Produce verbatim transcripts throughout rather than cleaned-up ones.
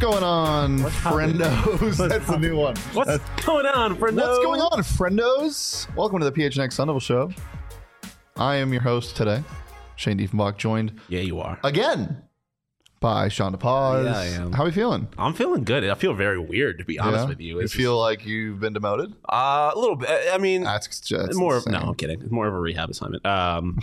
going on, What's friendos? That's the new one. What's That's, going on, friendos? what's going on, friendos? Welcome to the P H N X Sun Devil Show. I am your host today, Shane Diefenbach, joined Yeah, you are. again by Sean DePaz. Yeah, I am. How are you feeling? I'm feeling good. I feel very weird, to be honest Yeah? with you. You It's feel like you've been demoted? uh, a little bit. I mean, That's just more of, insane. no, I'm kidding. It's more of a rehab assignment. Um,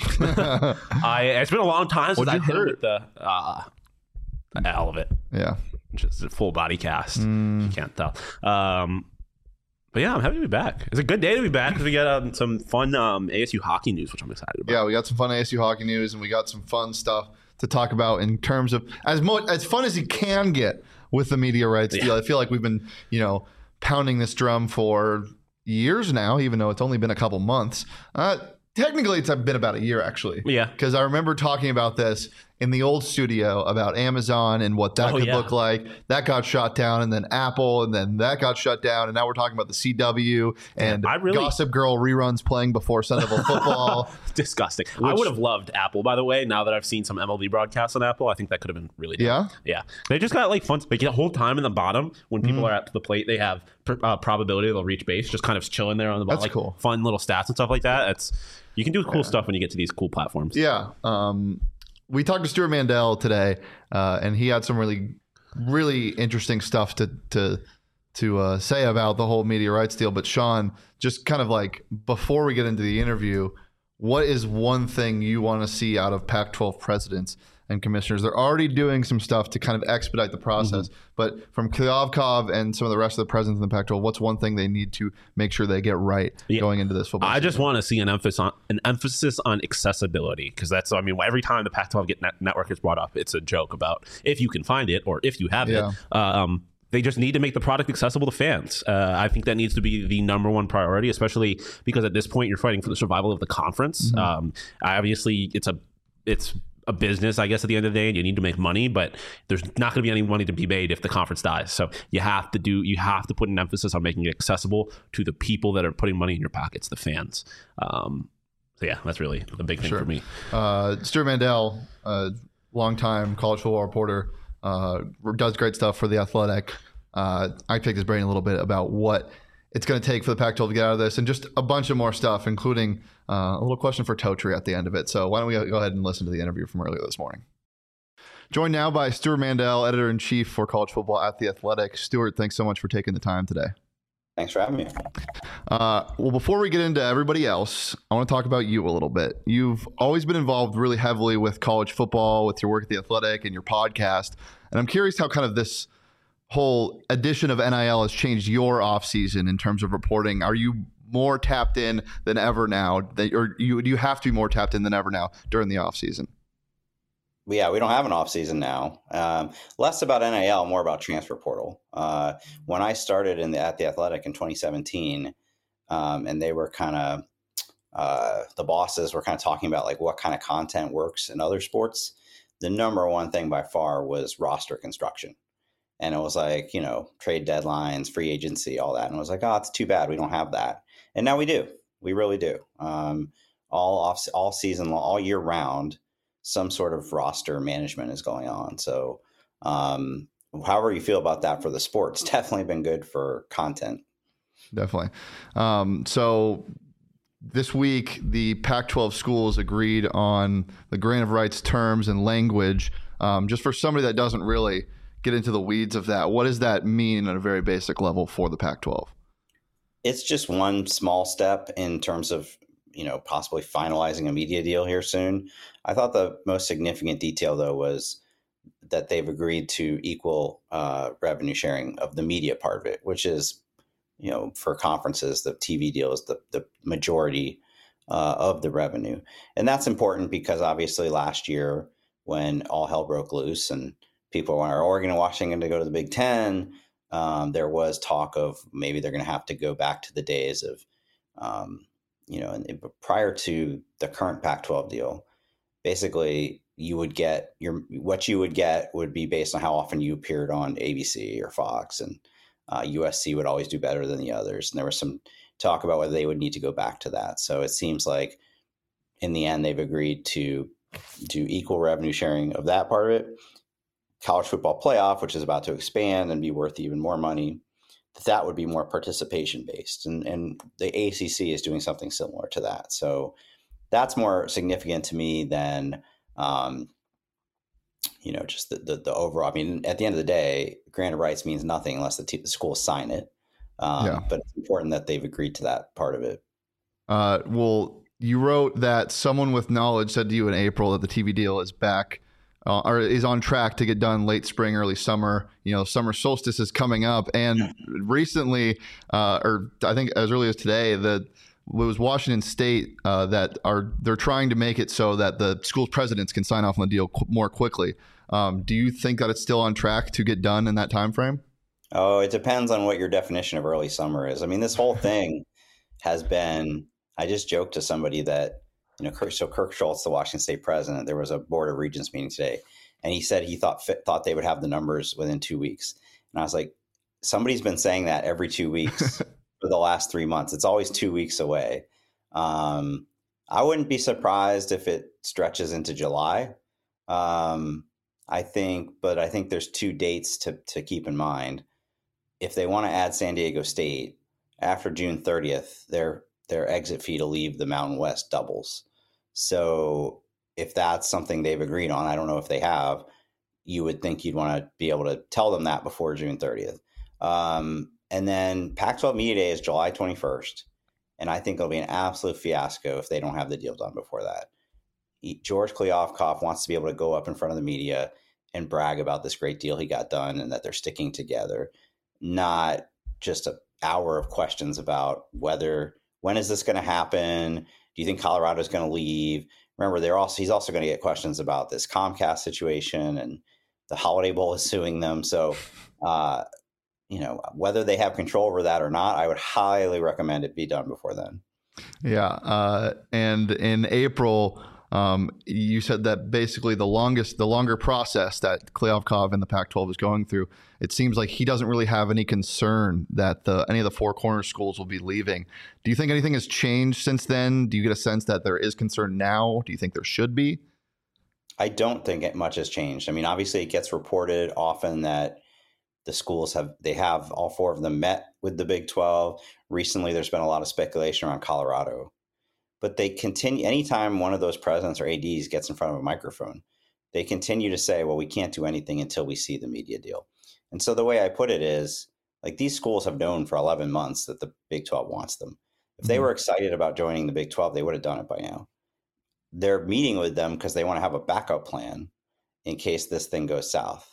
I it's been a long time since What'd you I've hit it hurt? with the uh, all of it. Yeah. Just a full body cast. Mm. You can't tell. Um, but yeah, I'm happy to be back. It's a good day to be back because we got um, some fun um, A S U hockey news, which I'm excited about. Yeah, we got some fun A S U hockey news, and we got some fun stuff to talk about in terms of as mo- as fun as you can get with the media rights Yeah. deal. I feel like we've been, you know, pounding this drum for years now, even though it's only been a couple months. Uh, technically, it's been about a year, actually. Yeah. Because I remember talking about this in the old studio about Amazon and what that Oh, could yeah. look like. That got shut down, and then Apple, and then that got shut down, and now we're talking about the C W and I really- Gossip Girl reruns playing before Sun Devil football. Disgusting. I Which- would have loved Apple, by the way. Now that I've seen some M L B broadcasts on Apple, I think that could have been really dope. Yeah? Yeah. They just got like fun. Like the whole time in the bottom, when people Mm. are at the plate, they have pr- uh, probability they'll reach base, just kind of chilling there on the bottom. That's like cool. Fun little stats and stuff like that. It's you can do cool stuff when you get to these cool platforms. Yeah. Um, we talked to Stuart Mandel today, uh, and he had some really, really interesting stuff to to to uh, say about the whole media rights deal. But Sean, just kind of like before we get into the interview, what is one thing you want to see out of Pac twelve presidents and commissioners? They're already doing some stuff to kind of expedite the process. But from Klyavkov and some of the rest of the presidents in the Pac twelve, what's one thing they need to make sure they get right Yeah. going into this football I season? just want to see an emphasis on an emphasis on accessibility because that's I mean every time the Pac twelve get net- network is brought up, it's a joke about if you can find it or if you have Yeah. it. Um, they just need to make the product accessible to fans. Uh, I think that needs to be the number one priority, especially because at this point you're fighting for the survival of the conference. Mm-hmm. Um, obviously, it's a it's a business, I guess, at the end of the day, and you need to make money, but there's not going to be any money to be made if the conference dies. So you have to do, you have to put an emphasis on making it accessible to the people that are putting money in your pockets, the fans. Um, so yeah, that's really the big thing Sure. for me. Uh, Stuart Mandel, uh, longtime college football reporter, uh, does great stuff for The Athletic. Uh, I picked his brain a little bit about what it's going to take for the Pac twelve to get out of this and just a bunch of more stuff, including uh, a little question for Totri at the end of it. So why don't we go ahead and listen to the interview from earlier this morning. Joined now by Stuart Mandel, editor-in-chief for college football at The Athletic. Stuart, thanks so much for taking the time today. Thanks for having me. Uh, well, before we get into everybody else, I want to talk about you a little bit. You've always been involved really heavily with college football, with your work at The Athletic and your podcast. And I'm curious how kind of this whole addition of N I L has changed your offseason in terms of reporting. Are you more tapped in than ever now? That, or you, do you have to be more tapped in than ever now during the offseason? Well, yeah, we don't have an off season now. Um, less about N I L, more about transfer portal. Uh, when I started in the, at the Athletic in twenty seventeen, um, and they were kind of uh, the bosses were kind of talking about like what kind of content works in other sports. The number one thing by far was roster construction, and it was like you know trade deadlines, free agency, all that. And it was like, oh, it's too bad we don't have that. And now we do. We really do. Um, all off all season long, all year round. Some sort of roster management is going on. So um, however you feel about that for the sport, it's definitely been good for content. Definitely. Um, so this week, the Pac twelve schools agreed on the grant of rights terms and language. Um, just for somebody that doesn't really get into the weeds of that, what does that mean at a very basic level for the Pac twelve? It's just one small step in terms of you know, possibly finalizing a media deal here soon. I thought the most significant detail, though, was that they've agreed to equal uh, revenue sharing of the media part of it, which is, you know, for conferences, the T V deal is the, the majority uh, of the revenue. And that's important because obviously last year when all hell broke loose and people wanted Oregon and Washington to go to the Big Ten, um, there was talk of maybe they're going to have to go back to the days of, um, you know, and prior to the current Pac twelve deal, basically you would get your, what you would get would be based on how often you appeared on A B C or Fox, and uh, U S C would always do better than the others. And there was some talk about whether they would need to go back to that. So it seems like in the end, they've agreed to do equal revenue sharing of that part of it. college football playoff, which is about to expand and be worth even more money, that that would be more participation based. And, and the A C C is doing something similar to that. So that's more significant to me than, um, you know, just the, the, the overall. I mean, at the end of the day, granted rights means nothing unless the, t- the schools sign it. Um, yeah. But it's important that they've agreed to that part of it. Uh, well, you wrote that someone with knowledge said to you in April that the T V deal is back uh, or is on track to get done late spring, early summer. You know, summer solstice is coming up. And recently, uh, or I think as early as today, the it was Washington State uh, that are they're trying to make it so that the school presidents can sign off on the deal qu- more quickly. Um, do you think that it's still on track to get done in that time frame? Oh, it depends on what your definition of early summer is. I mean, this whole thing has been. I just joked to somebody that, you know, Kirk, so Kirk Schultz, the Washington State president, there was a Board of Regents meeting today, and he said he thought thought they would have the numbers within two weeks. And I was like, somebody's been saying that every two weeks. For the last three months. It's always two weeks away. Um, I wouldn't be surprised if it stretches into July. Um, I think, but I think there's two dates to, to keep in mind. If they want to add San Diego State after June thirtieth, their their exit fee to leave the Mountain West doubles. So if that's something they've agreed on, I don't know if they have, you would think you'd want to be able to tell them that before June thirtieth. Um, And then Pac twelve Media Day is July twenty-first. And I think it'll be an absolute fiasco if they don't have the deal done before that. George Kliavkoff wants to be able to go up in front of the media and brag about this great deal he got done and that they're sticking together, not just an hour of questions about whether, when is this going to happen? Do you think Colorado is going to leave? Remember, they're also he's also going to get questions about this Comcast situation, and the Holiday Bowl is suing them. So, uh, you know, whether they have control over that or not, I would highly recommend it be done before then. Yeah. Uh, and in April, um, you said that basically the longest, the longer process that Kliavkoff and the Pac twelve is going through, it seems like he doesn't really have any concern that the, any of the Four Corners schools will be leaving. Do you think anything has changed since then? Do you get a sense that there is concern now? Do you think there should be? I don't think much has changed. I mean, obviously it gets reported often that the schools have, they have all four of them met with the Big twelve. Recently, there's been a lot of speculation around Colorado, but they continue, anytime one of those presidents or A Ds gets in front of a microphone, they continue to say, well, we can't do anything until we see the media deal. And so the way I put it is, like, these schools have known for eleven months that the Big twelve wants them. If they were excited about joining the Big twelve, they would have done it by now. They're meeting with them because they want to have a backup plan in case this thing goes south.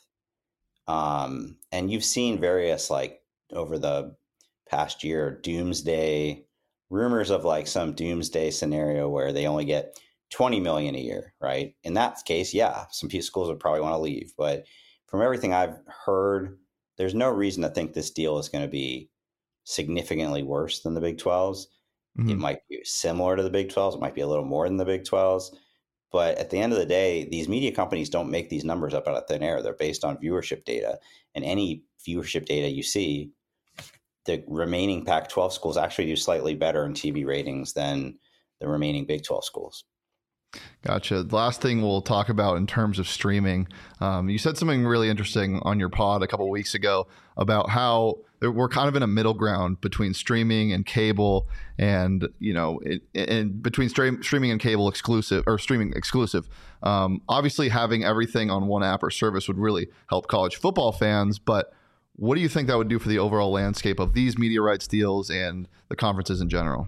Um, and you've seen various, like, over the past year, doomsday rumors of like some doomsday scenario where they only get twenty million a year, right? In that case, yeah, some schools would probably want to leave. But from everything I've heard, there's no reason to think this deal is going to be significantly worse than the Big twelves. Mm-hmm. It might be similar to the Big twelves. It might be a little more than the Big twelves. But at the end of the day, these media companies don't make these numbers up out of thin air. They're based on viewership data. And any viewership data you see, the remaining Pac twelve schools actually do slightly better in T V ratings than the remaining Big twelve schools. Gotcha. The last thing we'll talk about in terms of streaming, um, you said something really interesting on your pod a couple of weeks ago about how we're kind of in a middle ground between streaming and cable, and you know, it, and between stream, streaming and cable exclusive or streaming exclusive. Um, obviously, having everything on one app or service would really help college football fans. But what do you think that would do for the overall landscape of these media rights deals and the conferences in general?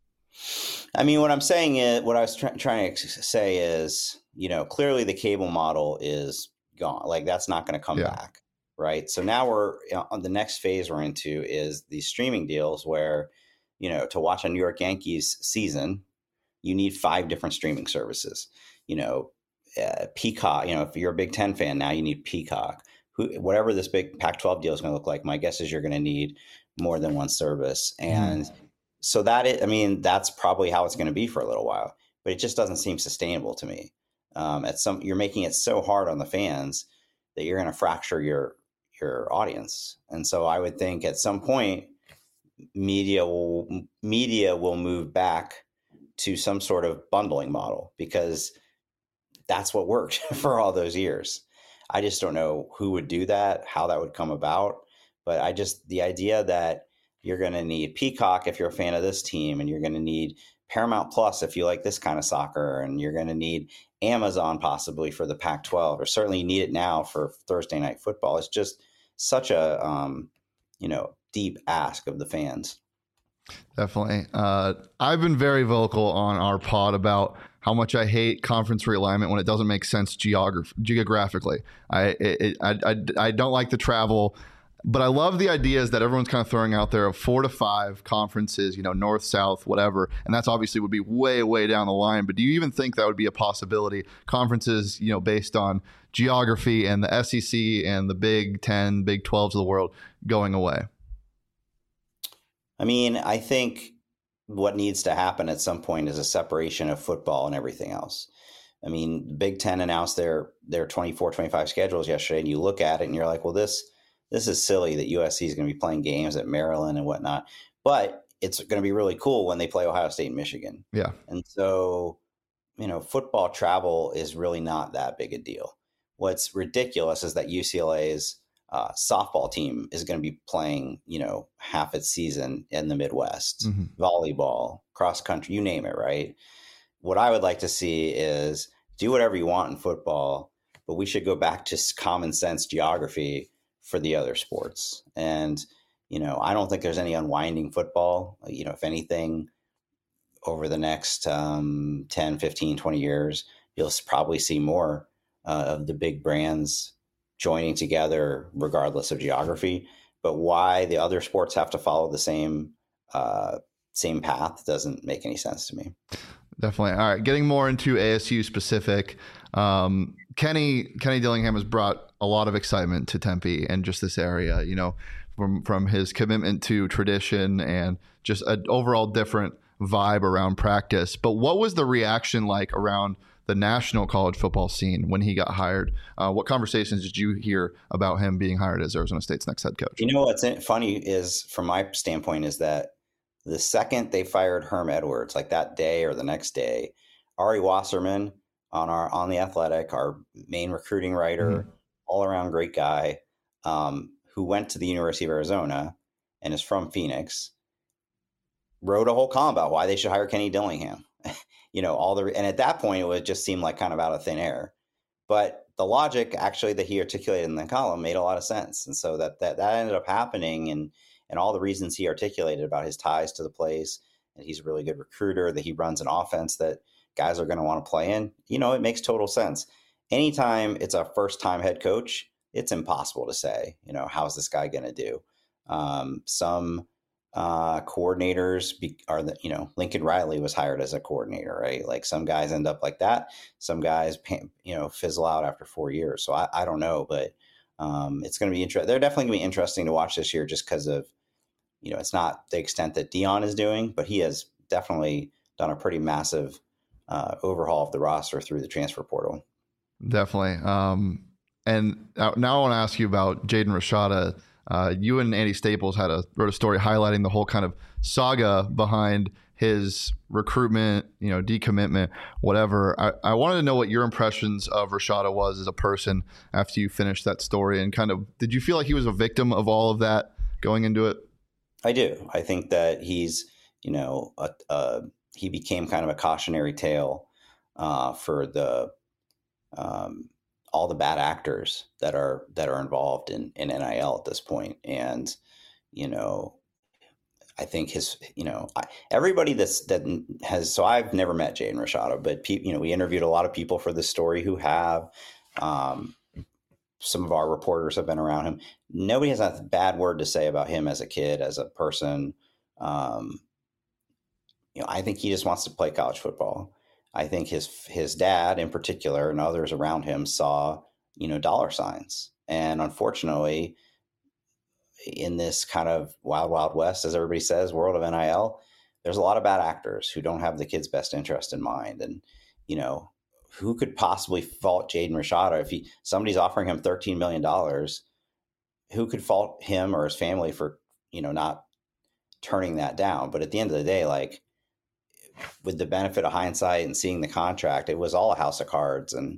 I mean, what I'm saying is, what I was try- trying to say is, you know, clearly the cable model is gone. Like, that's not going to come yeah. back, right? So now we're on the next phase we're into is these streaming deals where, you know, to watch a New York Yankees season, you need five different streaming services. You know, uh, Peacock. You know, if you're a Big Ten fan now, you need Peacock. Who, whatever this big Pac twelve deal is going to look like, my guess is you're going to need more than one service. And mm. so that, it, I mean, that's probably how it's going to be for a little while, but it just doesn't seem sustainable to me. Um, at some, you're making it so hard on the fans that you're going to fracture your, your audience. And so I would think at some point, media will, media will move back to some sort of bundling model, because that's what worked for all those years. I just don't know who would do that, how that would come about. But I just, the idea that you're going to need Peacock if you're a fan of this team, and you're going to need Paramount Plus if you like this kind of soccer, and you're going to need Amazon possibly for the Pac twelve, or certainly you need it now for Thursday night football. It's just such a, um, you know, deep ask of the fans. Definitely. Uh, I've been very vocal on our pod about how much I hate conference realignment when it doesn't make sense geograph- geographically. I, it, I, I, I don't like the travel, but I love the ideas that everyone's kind of throwing out there of four to five conferences, you know, north, south, whatever. And that's obviously would be way, way down the line. But do you even think that would be a possibility? Conferences, you know, based on geography, and the S E C and the Big Ten, Big twelves of the world going away? I mean, I think what needs to happen at some point is a separation of football and everything else. I mean, Big Ten announced their their twenty-four, twenty-five schedules yesterday, and you look at it and you're like, well, this this is silly that U S C is going to be playing games at Maryland and whatnot. But it's going to be really cool when they play Ohio State and Michigan. Yeah. And so, you know, football travel is really not that big a deal. What's ridiculous is that U C L A's uh, softball team is going to be playing, you know, half its season in the Midwest, mm-hmm. volleyball, cross country, you name it, right? What I would like to see is do whatever you want in football, but we should go back to common sense geography for the other sports. And, you know, I don't think there's any unwinding football. You know, if anything, over the next um, ten, fifteen, twenty years, you'll probably see more uh, of the big brands joining together regardless of geography. But why the other sports have to follow the same uh, same path doesn't make any sense to me. Definitely. All right. Getting more into A S U specific, um, Kenny Kenny Dillingham has brought a lot of excitement to Tempe and just this area, you know, from, from his commitment to tradition and just an overall different vibe around practice. But what was the reaction like around the national college football scene when he got hired? Uh, what conversations did you hear about him being hired as Arizona State's next head coach? You know, what's funny is, from my standpoint, is that the second they fired Herm Edwards, like that day or the next day, Ari Wasserman on our on the Athletic, our main recruiting writer, mm-hmm. all around great guy, um, who went to the University of Arizona and is from Phoenix, wrote a whole column about why they should hire Kenny Dillingham. You know, all the and at that point it would just seem like kind of out of thin air, but the logic actually that he articulated in the column made a lot of sense, and so that that that ended up happening, and and all the reasons he articulated about his ties to the place, and he's a really good recruiter, that he runs an offense that guys are going to want to play in. You know, it makes total sense. Anytime it's a first time head coach, it's impossible to say, you know, how's this guy going to do? Um, some uh, coordinators be, are the, you know, Lincoln Riley was hired as a coordinator, right? Like some guys end up like that. Some guys, you know, fizzle out after four years. So I, I don't know, but um, it's going to be interesting. They're definitely going to be interesting to watch this year just because of, you know, it's not the extent that Dion is doing, but he has definitely done a pretty massive uh, overhaul of the roster through the transfer portal. Definitely. Um, and now, now I want to ask you about Jaden Rashada. Uh, you and Andy Staples had a wrote a story highlighting the whole kind of saga behind his recruitment, you know, decommitment, whatever. I, I wanted to know what your impressions of Rashada was as a person after you finished that story, and kind of, did you feel like he was a victim of all of that going into it? I do. I think that he's, you know, a, a, he became kind of a cautionary tale uh, for the um, all the bad actors that are that are involved in, in N I L at this point. And, you know, I think his, you know, I, everybody that's that has, so I've never met Jaden Rashada, but, pe- you know, we interviewed a lot of people for this story who have. Um, some of our reporters have been around him. Nobody has a bad word to say about him as a kid, as a person. Um, you know, I think he just wants to play college football. I think his his dad in particular and others around him saw, you know, dollar signs. And unfortunately, in this kind of wild, wild west, as everybody says, world of N I L, there's a lot of bad actors who don't have the kid's best interest in mind. And, you know, who could possibly fault Jaden Rashada if he somebody's offering him thirteen million dollars? Who could fault him or his family for, you know, not turning that down? But at the end of the day, like, with the benefit of hindsight and seeing the contract, it was all a house of cards. And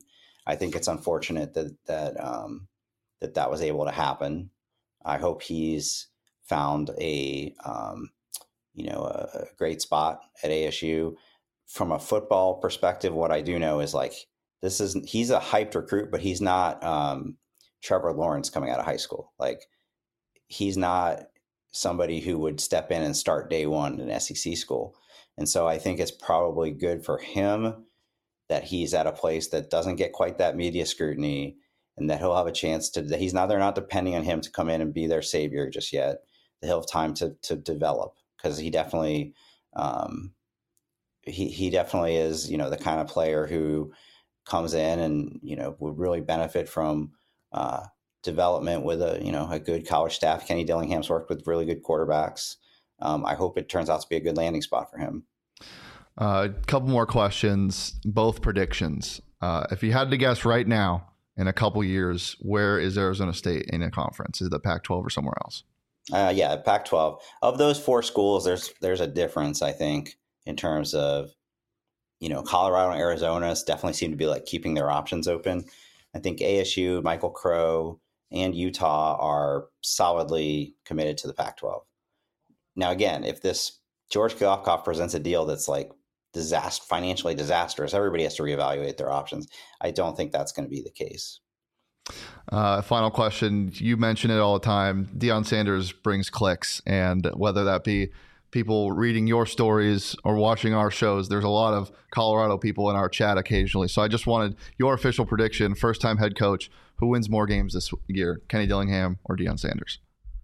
I think it's unfortunate that that um, that that was able to happen. I hope he's found a um, you know a, a great spot at A S U. From a football perspective, what I do know is like this is he's a hyped recruit, but he's not um, Trevor Lawrence coming out of high school. Like he's not somebody who would step in and start day one in S E C school. And so I think it's probably good for him that he's at a place that doesn't get quite that media scrutiny, and that he'll have a chance to, that he's not, they're not depending on him to come in and be their savior just yet. That he'll have time to, to develop, because he definitely, um, he, he definitely is, you know, the kind of player who comes in and, you know, would really benefit from, uh, development with a, you know, a good college staff. Kenny Dillingham's worked with really good quarterbacks. Um, I hope it turns out to be a good landing spot for him. A uh, couple more questions, both predictions. Uh, if you had to guess right now, in a couple years, where is Arizona State in a conference? Is it the Pac twelve or somewhere else? Uh, yeah, Pac twelve. Of those four schools, there's there's a difference, I think, in terms of, you know, Colorado and Arizona definitely seem to be like keeping their options open. I think A S U, Michael Crow, and Utah are solidly committed to the Pac twelve. Now, again, if this George Kliavkoff presents a deal that's like disaster, financially disastrous, everybody has to reevaluate their options. I don't think that's going to be the case. Uh, final question. You mention it all the time. Deion Sanders brings clicks, and whether that be people reading your stories or watching our shows, there's a lot of Colorado people in our chat occasionally. So I just wanted your official prediction, first-time head coach, who wins more games this year, Kenny Dillingham or Deion Sanders?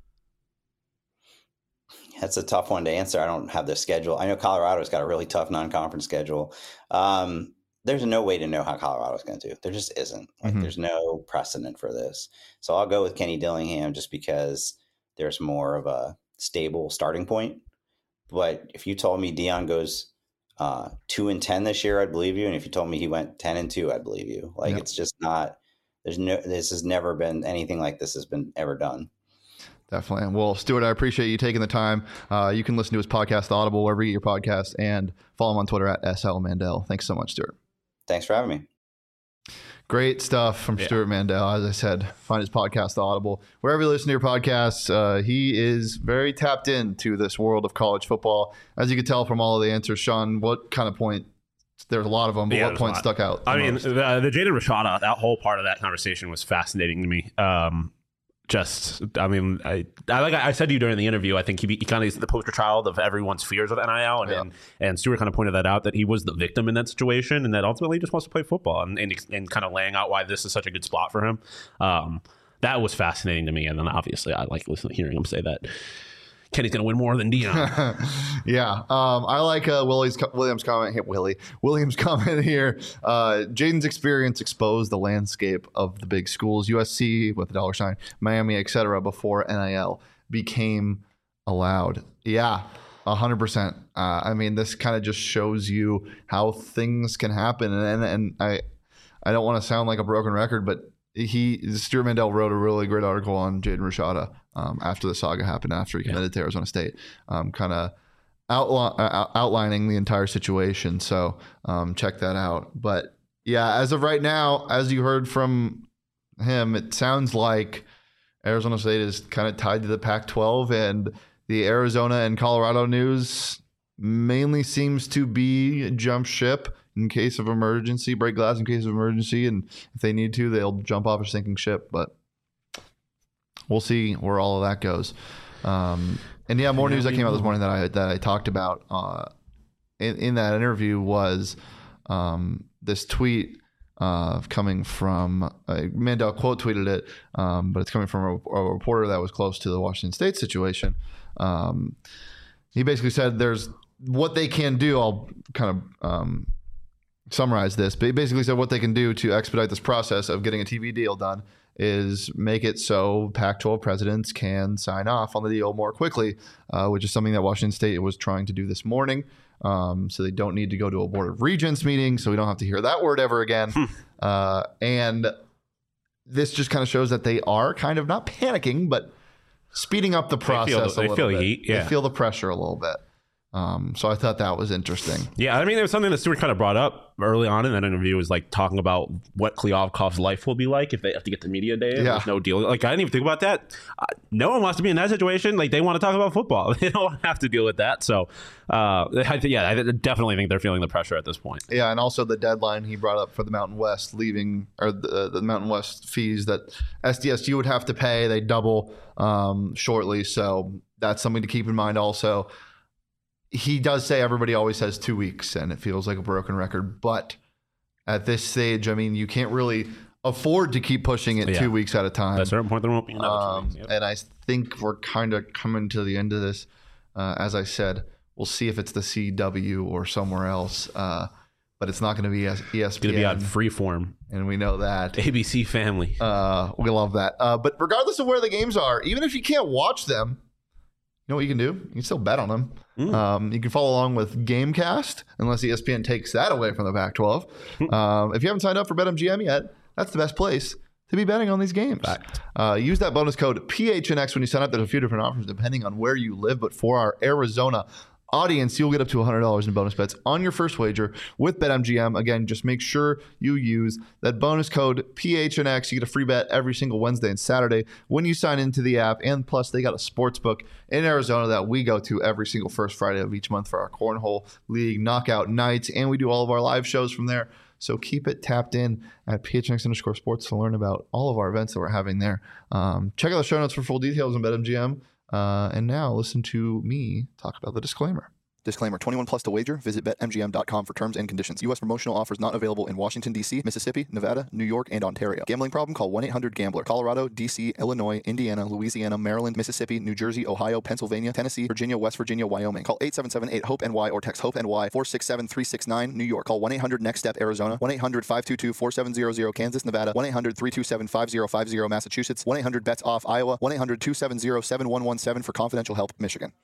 That's a tough one to answer. I don't have the schedule. I know Colorado's got a really tough non-conference schedule. Um, there's no way to know how Colorado's going to do. There just isn't. Like, mm-hmm. There's no precedent for this. So I'll go with Kenny Dillingham just because there's more of a stable starting point. But if you told me Deion goes uh, two and ten this year, I'd believe you. And if you told me he went ten and two, I'd believe you. Like, yep. It's just not. There's no. This has never been anything like this has been ever done. Definitely. Well, Stuart, I appreciate you taking the time. Uh, you can listen to his podcast, Audible, wherever you get your podcast, and follow him on Twitter at S L Mandel. Thanks so much, Stuart. Thanks for having me. Great stuff from yeah. Stuart Mandel. As I said, find his podcast, Audible. Wherever you listen to your podcasts, uh, he is very tapped into this world of college football. As you could tell from all of the answers, Sean, what kind of point? There's a lot of them, but yeah, what point stuck out? I mean, most? the, the Jaden Rashada, that whole part of that conversation was fascinating to me. Um, Just, I mean, I, I like I said to you during the interview, I think he, he kind of is the poster child of everyone's fears of N I L, and, yeah. and and Stuart kind of pointed that out, that he was the victim in that situation, and that ultimately he just wants to play football, and, and and kind of laying out why this is such a good spot for him. Um, that was fascinating to me, and then obviously I like listening, hearing him say that Kenny's going to win more than Deion. yeah. Um, I like uh, Willie's, Williams' comment. Hit Willie. Williams' comment here. Uh, Jaden's experience exposed the landscape of the big schools, U S C with the dollar sign, Miami, et cetera, before N I L became allowed. Yeah, one hundred percent. Uh, I mean, this kind of just shows you how things can happen. And, and, and I, I don't want to sound like a broken record, but he Stuart Mandel wrote a really great article on Jaden Rashada um, after the saga happened, after he committed yeah. to Arizona State, um, kind of outli- uh, outlining the entire situation. So um, check that out. But yeah, as of right now, as you heard from him, it sounds like Arizona State is kind of tied to the Pac twelve, and the Arizona and Colorado news mainly seems to be jump ship in case of emergency, break glass in case of emergency, and if they need to, they'll jump off a sinking ship. But we'll see where all of that goes. Um, and yeah, more news that came out this morning that I that I talked about uh, in in that interview was um, this tweet uh, coming from uh, Mandel quote tweeted it, um, but it's coming from a, a reporter that was close to the Washington State situation. Um, he basically said there's what they can do. I'll kind of um, summarize this, but he basically said what they can do to expedite this process of getting a T V deal done is make it so Pac twelve presidents can sign off on the deal more quickly, uh, which is something that Washington State was trying to do this morning. Um, so they don't need to go to a Board of Regents meeting, so we don't have to hear that word ever again. Hmm. Uh, and this just kind of shows that they are kind of not panicking, but speeding up the process they feel, a little they feel bit. Heat, yeah. They feel the pressure a little bit. Um, so I thought that was interesting. Yeah, I mean, there was something that Stewart kind of brought up early on in that interview, was like talking about what Kliavkov's life will be like if they have to get to media day. And Yeah. There's no deal. Like, I didn't even think about that. Uh, no one wants to be in that situation. Like, they want to talk about football. They don't have to deal with that. So, uh, I th- yeah, I definitely think they're feeling the pressure at this point. Yeah, and also the deadline he brought up for the Mountain West leaving, or the, the Mountain West fees that S D S U would have to pay, they double um, shortly. So that's something to keep in mind also. He does say everybody always says two weeks, and it feels like a broken record. But at this stage, I mean, you can't really afford to keep pushing it Yeah. two weeks at a time. At a certain point, there won't be another two Um, weeks. Yep. And I think we're kind of coming to the end of this. Uh, as I said, we'll see if it's the C W or somewhere else. Uh, but it's not going to be E S P N. It's going to be on Freeform. And we know that. A B C Family. Uh, we love that. Uh, but regardless of where the games are, even if you can't watch them, you know what you can do? You can still bet on them. Mm. Um, you can follow along with Gamecast, unless E S P N takes that away from the Pac twelve. um, if you haven't signed up for BetMGM yet, that's the best place to be betting on these games. Uh, use that bonus code P H N X when you sign up. There's a few different offers depending on where you live. But for our Arizona audience, you'll get up to one hundred dollars in bonus bets on your first wager with BetMGM. Again, just make sure you use that bonus code P H N X. You get a free bet every single Wednesday and Saturday when you sign into the app. And plus, they got a sports book in Arizona that we go to every single first Friday of each month for our Cornhole League knockout nights. And we do all of our live shows from there. So keep it tapped in at P H N X underscore sports to learn about all of our events that we're having there. Um, check out the show notes for full details on BetMGM. Uh, and now listen to me talk about the disclaimer. Disclaimer, twenty-one plus to wager. Visit bet M G M dot com for terms and conditions. U S promotional offers not available in Washington, D C, Mississippi, Nevada, New York, and Ontario. Gambling problem? Call one eight hundred gambler. Colorado, D C, Illinois, Indiana, Louisiana, Maryland, Mississippi, New Jersey, Ohio, Pennsylvania, Tennessee, Virginia, West Virginia, Wyoming. Call eight seven seven eight hope N Y or text HOPE-NY four six seven three six nine. New York. Call one eight hundred next step Arizona. one eight hundred five two two four seven zero zero. Kansas, Nevada. one eight hundred three two seven five zero five zero. Massachusetts. one eight hundred bets off Iowa. one eight hundred two seven zero seven one one seven for confidential help. Michigan.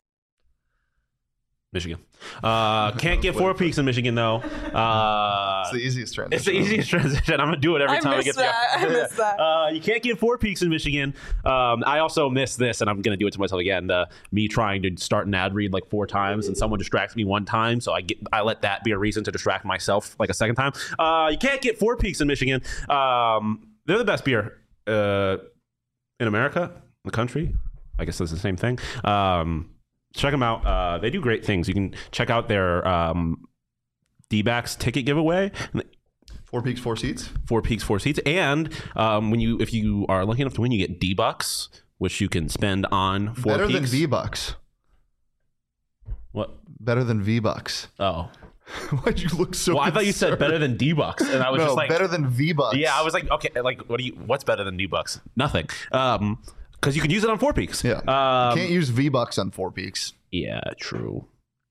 Michigan. Uh, can't get four peaks in Michigan, though. Uh, It's the easiest transition. It's the easiest transition. I'm gonna do it every I time I miss get that. the I miss that. Uh, you can't get four peaks in Michigan. Um, I also miss this, and I'm gonna do it to myself again. The me trying to start an ad read like four times, and someone distracts me one time, so I get I let that be a reason to distract myself like a second time. Uh, you can't get four peaks in Michigan. Um, they're the best beer uh, in America, the country. I guess that's the same thing. Um, check them out. Uh, they do great things. You can check out their um, D-backs ticket giveaway. Four peaks, four seats. Four peaks, four seats. And um, when you, if you are lucky enough to win, you get D-bucks, which you can spend on four Better peaks. than V-Bucks. What? Better than V-Bucks. Oh. Why'd you look so Well, I thought you said concerned? better than D-bucks. And I was no, just like... better than V-Bucks. Yeah, I was like, okay, like, what do you, what's better than D-bucks? Nothing. Um, because you can use it on four peaks. Yeah. Um, Can't use V-Bucks on four peaks. Yeah, true.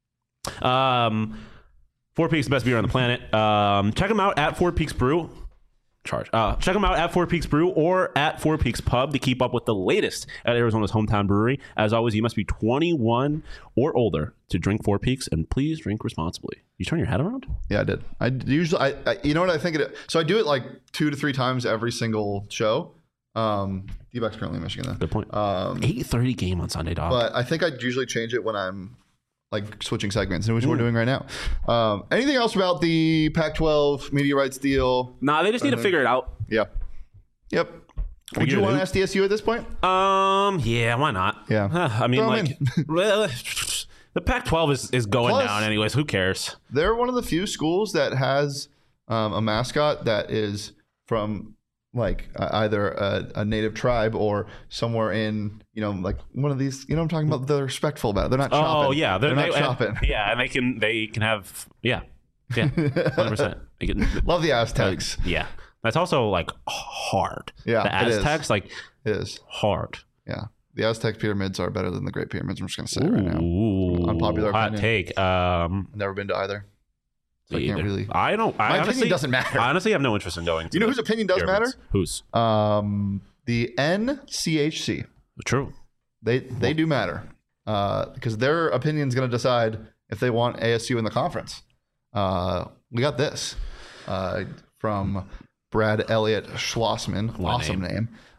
Um, Four Peaks, the best beer on the planet. Um, check them out at Four Peaks Brew. Charge. Uh, check them out at Four Peaks Brew or at Four Peaks Pub to keep up with the latest at Arizona's hometown brewery. As always, you must be twenty-one or older to drink Four Peaks, and please drink responsibly. You turn your head around? Yeah, I did. I usually, I, I you know what I think it. So I do it like two to three times every single show. Um, D-Bucks currently in Michigan, though. Good point. Um, eight thirty game on Sunday, dog. but I think I usually change it when I'm like switching segments, which we're doing right now. Um, anything else about the Pac twelve media rights deal? Nah, they just need to figure it out. Yeah. Yep. Would get you it want in? S D S U at this point? Um, yeah, why not? Yeah. Huh, I mean, Throw 'em like, well, the Pac twelve is, is going Plus- down anyways. Who cares? They're one of the few schools that has um, a mascot that is from like uh, either a, a native tribe or somewhere in, you know, like one of these, you know what I'm talking about? They're respectful about it. They're not shopping. Oh yeah, They're, not they, shopping. And, yeah, and they can they can have yeah, yeah, one hundred percent. They can Love the Aztecs. yeah. That's also like hard. Yeah, the it is. Aztecs like It is. hard. Yeah. The Aztec pyramids are better than the Great Pyramids. I'm just going to say it right now. Ooh, Unpopular hot opinion. take. Um, I've never been to either. So I can't either. really. I don't. I My honestly, opinion doesn't matter. I honestly have no interest in going. To You know the whose opinion does pyramids. Whose? matter? Um, the N C H C. True. They they do matter uh, because their opinion is going to decide if they want A S U in the conference. Uh, we got this uh, from Brad Elliott Schlossman. What a Awesome name.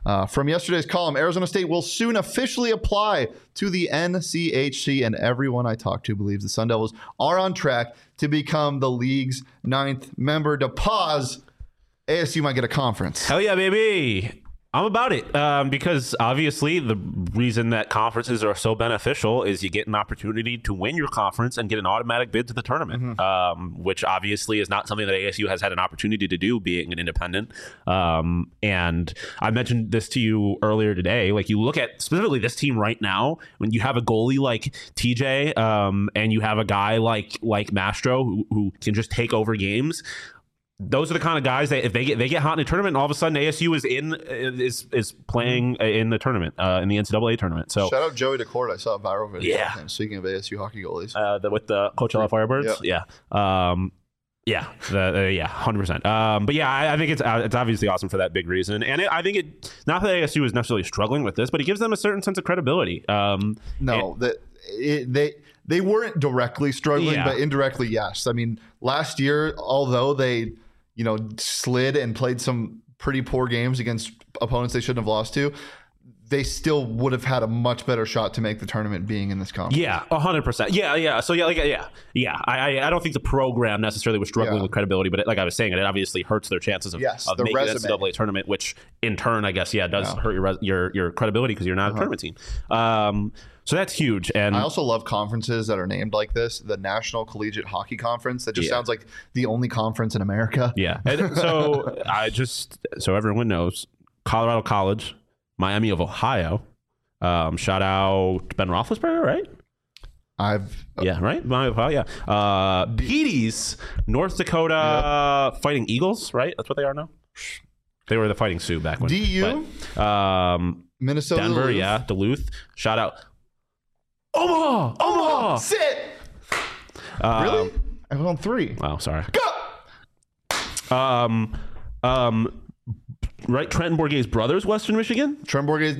Uh, from yesterday's column, Arizona State will soon officially apply to the N C H C, and everyone I talked to believes the Sun Devils are on track to become the league's ninth member. To pause, A S U might get a conference. Hell yeah, baby. I'm about it um, because obviously the reason that conferences are so beneficial is you get an opportunity to win your conference and get an automatic bid to the tournament, mm-hmm. um, which obviously is not something that A S U has had an opportunity to do being an independent. Um, and I mentioned this to you earlier today. Like you look at specifically this team right now, when you have a goalie like T J um, and you have a guy like like Mastro who, who can just take over games. Those are the kind of guys that if they get they get hot in a tournament, and all of a sudden A S U is in is is playing in the tournament uh, in the N C double A tournament. So shout out Joey DeCourt. I saw a viral video. Yeah. Of him. Speaking of A S U hockey goalies, uh, the, with the Coachella Firebirds. Yep. Yeah, um, yeah, the, uh, yeah, hundred percent. Um, but yeah, I, I think it's uh, it's obviously awesome for that big reason, and it, I think it not that A S U is necessarily struggling with this, but it gives them a certain sense of credibility. Um, no, and, that it, they. They weren't directly struggling, yeah. but indirectly, yes. I mean, last year, although they, you know, slid and played some pretty poor games against opponents they shouldn't have lost to, they still would have had a much better shot to make the tournament being in this conference. Yeah, one hundred percent. Yeah, yeah. So, yeah, like, yeah, yeah. I, I don't think the program necessarily was struggling yeah. with credibility, but it, like I was saying, it obviously hurts their chances of, yes, of the making resume. the N C double A tournament, which in turn, I guess, yeah, does yeah. hurt your res- your your credibility because you're not uh-huh. a tournament team. Um, so that's huge. And I also love conferences that are named like this. The National Collegiate Hockey Conference. That just yeah. sounds like the only conference in America. Yeah. And so I just, so everyone knows, Colorado College, Miami of Ohio. Um, shout out Ben Roethlisberger, right? I've uh, yeah, right. Miami of Ohio, yeah. Uh, Petey's, North Dakota yep. Fighting Eagles, right? That's what they are now. They were the Fighting Sioux back when. D U, but, um, Minnesota, Denver, Duluth. yeah, Duluth. Shout out. Omaha! Omaha! Sit! Um, really? I was on three. Wow, sorry. Go! Um, um, right, Trenton Bourguet's brothers, Western Michigan? Trenton Bourguet's,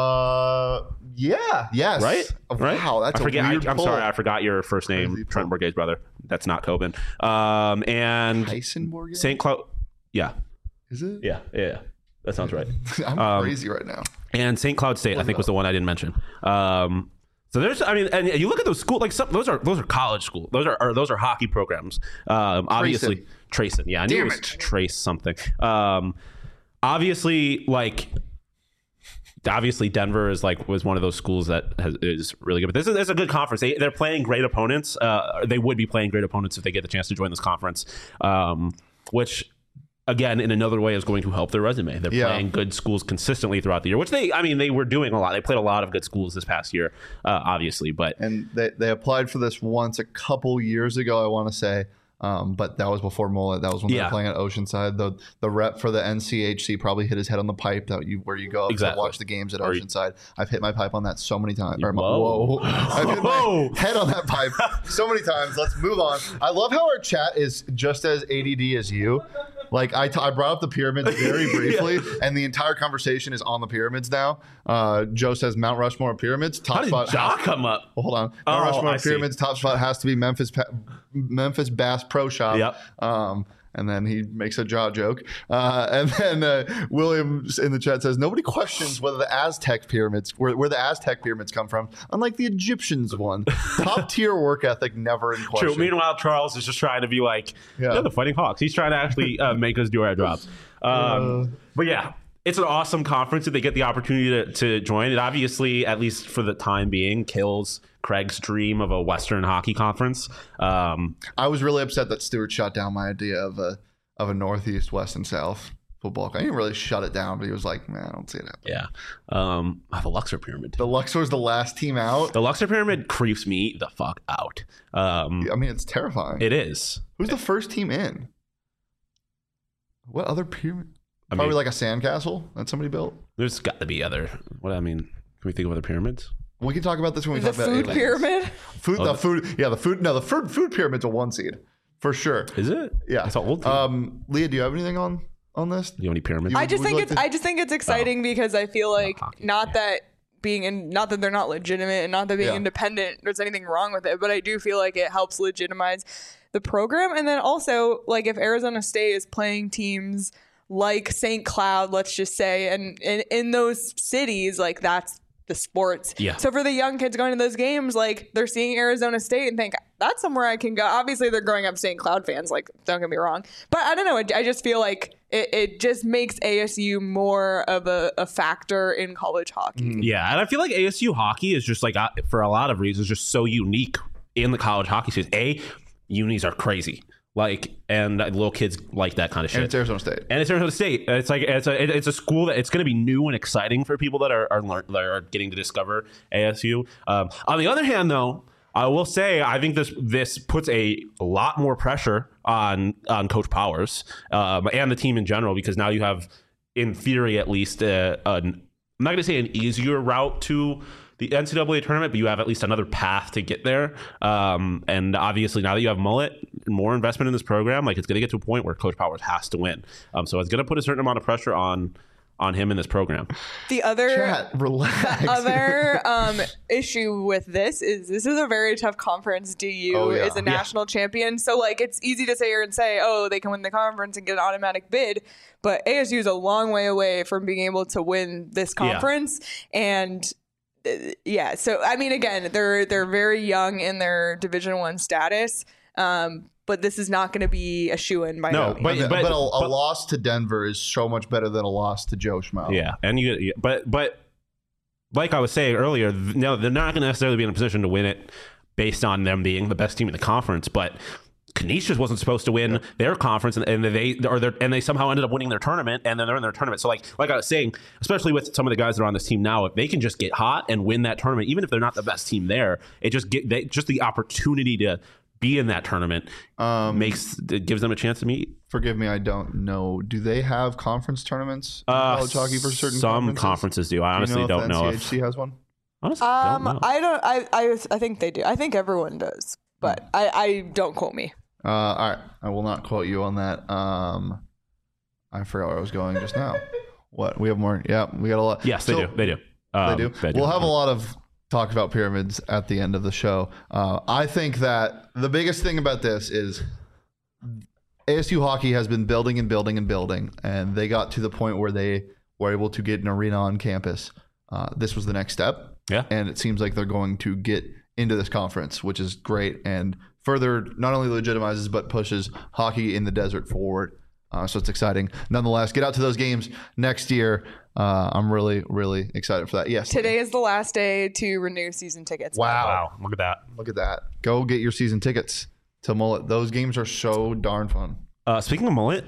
no. Yeah, yes. Right? Oh, right? Wow, that's I forget, a weird I, I'm pull. sorry, I forgot your first name, Crazy Trenton pull. Bourguet's brother. That's not Coben. Um, and Tyson Bourguet? Saint Cloud. Yeah. Is it? Yeah, yeah, yeah. That sounds right. I'm um, crazy right now. And Saint Cloud State, I think, was the one I didn't mention. Um, so there's, I mean, and you look at those schools, like some, those are those are college schools. Those are, are those are hockey programs. Um, obviously, Trayson. Yeah, I knew Damn it was it. Trace something. Um, obviously, like, obviously Denver is like was one of those schools that has, is really good. But this is, this is a good conference. They, they're playing great opponents. Uh, they would be playing great opponents if they get the chance to join this conference, um, which. Again, in another way, is going to help their resume. They're yeah. playing good schools consistently throughout the year, which they, I mean, they were doing a lot. They played a lot of good schools this past year, uh, obviously. But and they, they applied for this once a couple years ago, I want to say. Um, but that was before Mullet. That was when they yeah. were playing at Oceanside. The the rep for the N C H C probably hit his head on the pipe that you where you go exactly. to watch the games at Or Oceanside. You, I've hit my pipe on that so many times. Or my, whoa. whoa. I've hit Whoa. my head on that pipe so many times. Let's move on. I love how our chat is just as A D D as you. Like I, t- I brought up the pyramids very briefly, yeah. and the entire conversation is on the pyramids now. Uh, Joe says Mount Rushmore pyramids. Top How did spot. Ja has- come up? Well, hold on. Mount Oh, Rushmore I see. pyramids. Top spot has to be Memphis. Pa- Memphis Bass Pro Shop. Yep. Um, and then he makes a jaw joke. Uh, and then uh, William in the chat says nobody questions whether the Aztec pyramids, where, where the Aztec pyramids come from, unlike the Egyptians one. Top tier work ethic, never in question. True. Meanwhile, Charles is just trying to be like, Yeah. yeah, the Fighting Hawks. He's trying to actually uh, make us do our jobs. Um, Uh. but yeah, it's an awesome conference if they get the opportunity to, to join. It obviously, at least for the time being, kills Craig's dream of a Western hockey conference. Um, I was really upset that Stewart shot down my idea of a of a Northeast, West, and South football. I didn't really shut it down, but he was like, "Man, I don't see it happening." yeah. Um, oh, the Luxor Pyramid. The Luxor was the last team out. The Luxor Pyramid creeps me the fuck out. Um, I mean, it's terrifying. it is. Who's the first team in? What other pyramid? I Probably mean, like a sandcastle that somebody built. there's got to be other. What I mean, can we think of other pyramids? We can talk about this when we The talk about food aliens. pyramid. Food, Oh, the the- food, yeah, the food. No, the food, food pyramid's a one seed for sure. Is it? Yeah, It's an old team. Um, Leah, do you have anything on on this? you know any pyramids? You- I just would think like it's. to- I just think it's exciting because I feel like hockey, not yeah. that being in, not that they're not legitimate, and not that being Yeah. independent, there's anything wrong with it. But I do feel like it helps legitimize the program, and then also like if Arizona State is playing teams like Saint Cloud, let's just say, and in, in those cities, like that's the sports. Yeah. So for the young kids going to those games, like they're seeing Arizona State and think that's somewhere I can go. Obviously, they're growing up Saint Cloud fans. Like, don't get me wrong, but I don't know. I, I just feel like it, it just makes A S U more of a, a factor in college hockey. Yeah, and I feel like A S U hockey is just like, uh, for a lot of reasons, just so unique in the college hockey season. A, unis are crazy. Like, and little kids like that kind of shit. And it's Arizona State. And it's Arizona State. It's like it's a it's a school that it's going to be new and exciting for people that are are, learn, that are getting to discover A S U. Um, on the other hand, though, I will say I think this this puts a lot more pressure on on Coach Powers um, and the team in general, because now you have, in theory at least, uh, an, I'm not going to say an easier route to the N C double A tournament, but you have at least another path to get there. Um, and obviously, now that you have Mullet, more investment in this program, like it's going to get to a point where Coach Powers has to win. Um, so it's going to put a certain amount of pressure on on him in this program. The other Chat, relax. the other um, issue with this is this is a very tough conference. D U Oh, yeah. is a national yeah. champion, so like it's easy to say here and say, oh, they can win the conference and get an automatic bid, but A S U is a long way away from being able to win this conference, yeah. and yeah, so I mean, again, they're they're very young in their Division One status, um, but this is not going to be a shoo-in by no, no but, but, but, but, a, a but, loss to Denver is so much better than a loss to Joe Schmo. Yeah, and you, but but like I was saying earlier, no, they're not going to necessarily be in a position to win it based on them being the best team in the conference, but Canisius wasn't supposed to win their conference, and, and they or and they somehow ended up winning their tournament, and then they're in their tournament. So, like like I was saying, especially with some of the guys that are on this team now, if they can just get hot and win that tournament, even if they're not the best team there, it just get they, just the opportunity to be in that tournament um, makes it gives them a chance to meet. Forgive me, I don't know. Do they have conference tournaments in uh, college hockey for certain some conferences? conferences do. I honestly do you know don't if know N C H C if has one. Honestly, um, don't know. I don't. I, I I think they do. I think everyone does, but I, I don't quote me. Uh, all right, I will not quote you on that. Um, I forgot where I was going just now. What we have more? Yeah, we got a lot. Yes, they So- do. They do. Um, They do. They do. We'll have a lot of talk about pyramids at the end of the show. Uh, I think that the biggest thing about this is A S U hockey has been building and building and building, and they got to the point where they were able to get an arena on campus. Uh, this was the next step. Yeah. And it seems like they're going to get into this conference, which is great, and further not only legitimizes but pushes hockey in the desert forward. Uh, so it's exciting. Nonetheless, get out to those games next year. Uh, I'm really, really excited for that. Yes. Today is the last day to renew season tickets. Wow. Wow, look at that. Look at that. Go get your season tickets to Mullet. Those games are so darn fun. Uh, speaking of Mullet,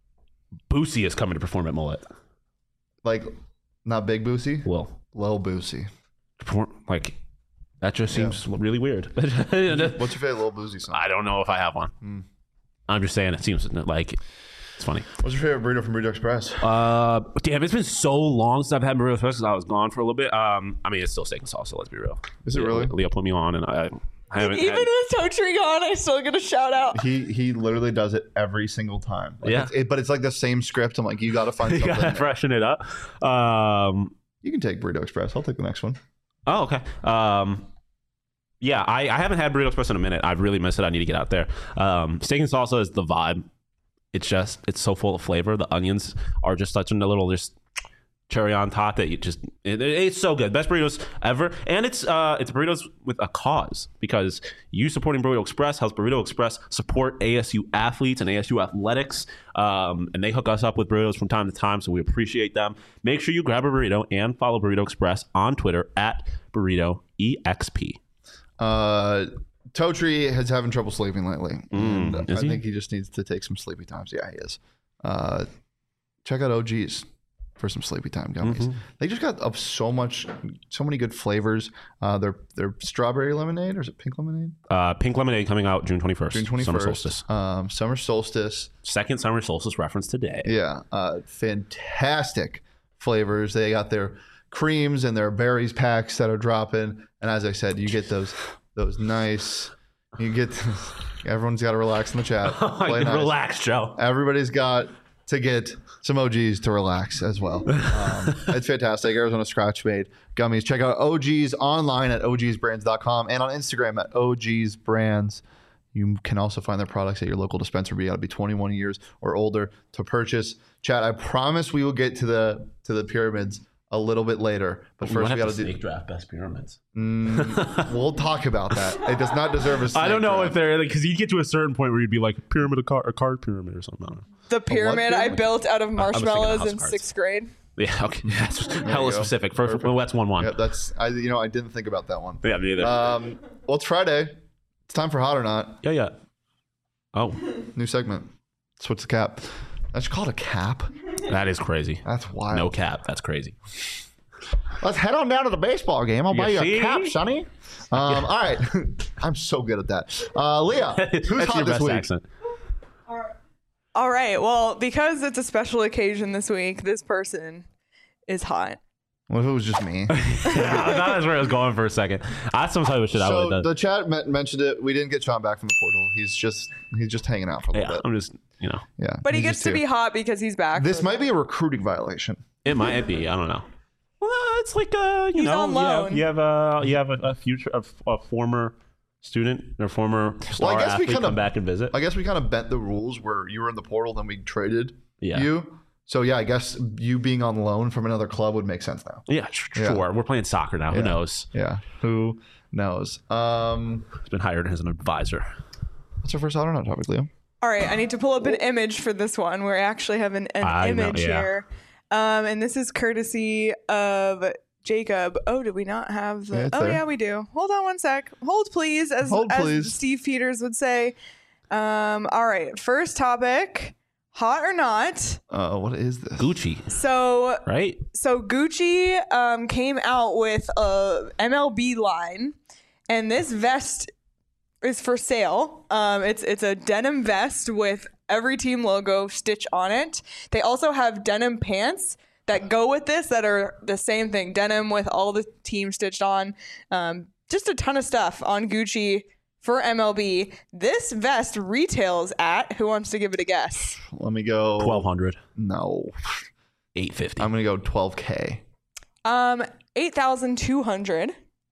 Boosie is coming to perform at Mullet. Like, not Big Boosie, Well, Lil Boosie. perform, like that just Yeah. seems really weird. What's your favorite Lil Boosie song? I don't know if I have one. Hmm. I'm just saying it seems like it's funny. What's your favorite burrito from Burrito Express? Uh, damn, it's been so long since I've had burrito express because I was gone for a little bit. Um, I mean, it's still steak and salsa. Let's be real. Is it Leo, really? Leo put me on, and I, I haven't. Even had, with Totri gone, I still get a shout out. He he literally does it every single time. Like, Yeah. it's, it, but it's like the same script. I'm like, you got to find you something. gotta there. freshen it up. Um, You can take Burrito Express. I'll take the next one. oh, okay. Um, yeah, I, I haven't had burrito express in a minute. I've really missed it. I need to get out there. Um, steak and salsa is the vibe. It's just it's so full of flavor. The onions are just such a little just cherry on top that you just it, it's so good. Best burritos ever, and it's uh it's burritos with a cause, because you supporting Burrito Express helps Burrito Express support A S U athletes and A S U athletics, um, and they hook us up with burritos from time to time, so we appreciate them. Make sure you grab a burrito and follow Burrito Express on Twitter at burrito E X P. Uh, Totri is having trouble sleeping lately. Mm, and is I he? think he just needs to take some sleepy times. Yeah, he is. Uh, check out O G's for some sleepy time gummies. Mhm. They just got up so much, so many good flavors. Uh, they're they're strawberry lemonade, or is it pink lemonade? Uh, pink lemonade coming out June twenty-first. June twenty Summer first. solstice. Um, summer solstice. Second summer solstice reference today. Yeah, uh, fantastic flavors. They got their creams and their berries packs that are dropping. And as I said, you get those those nice. You get everyone's got to relax in the chat. Play nice. Relax, Joe. Everybody's got to get some O Gs to relax as well. Um, it's fantastic. Arizona Scratch Made gummies. Check out O Gs online at O Gs brands dot com and on Instagram at O Gs brands. You can also find their products at your local dispensary. You got to be twenty-one years or older to purchase. Chat, I promise we will get to the to the pyramids a little bit later. But We first, might we have got to to do. snake draft best pyramids. Mm, we'll talk about that. It does not deserve a snake I don't know draft. if they're because you get to a certain point where you'd be like pyramid of car, a card pyramid or something. I don't know. The pyramid I pyramid? built out of was thinking marshmallows house in cards. sixth grade. Yeah, okay, that's you hella go. specific. First, Perfect. well, that's one one. Yeah, that's I. You know, I didn't think about that one. Yeah, me either. Um, well, it's Friday. It's time for Hot or Not. yeah, yeah. Oh, New segment. Switch the cap. I should call it a cap. that is crazy. That's wild. No cap. That's crazy. Let's head on down to the baseball game. I'll You buy you see? a cap, Sonny. Um, all right. I'm so good at that. Uh, Leah, who's That's hot your this best week? accent. All right. Well, because it's a special occasion this week, this person is hot. What if it was just me? Yeah, I thought that's where I was going for a second. That's some type of shit I would so have done. the chat me- mentioned it. We didn't get Sean back from the portal. He's just he's just hanging out for a little Yeah, bit. I'm just, you know, Yeah, But he he's gets just to be here. hot because he's back. This for might the- be a recruiting violation. it might be. I don't know. Well, it's like uh, you He's know, on you have, loan. you have a you have a, a future a, a former student or former star guess we athlete kinda- come back and visit. I guess we kind of bent the rules where you were in the portal, then we traded Yeah. you. So yeah, I guess you being on loan from another club would make sense now. Yeah, sh- Yeah. sure. We're playing soccer now. Who Yeah. knows? Yeah, who knows? Um, He's been hired as an advisor. what's our first Hot or Not topic, Liam? All right, I need to pull up an image for this one where I actually have an, an I know, image yeah. here. Um, and this is courtesy of Jacob. Oh, did we not have the? Yeah, it's oh, there. yeah, we do. Hold on one sec. Hold, please, as, Hold, as please. Steve Peters would say. Um, all right, first topic, hot or not. Uh, what is this? Gucci, So, right? so Gucci um, came out with a M L B line, and this vest is for sale. Um, it's it's a denim vest with every team logo stitched on it. They also have denim pants that go with this that are the same thing, denim with all the teams stitched on. Um, just a ton of stuff on Gucci for M L B. This vest retails at, who wants to give it a guess? Let me go. Twelve hundred, No, eight fifty. I'm gonna go twelve K. Um, eight thousand two hundred.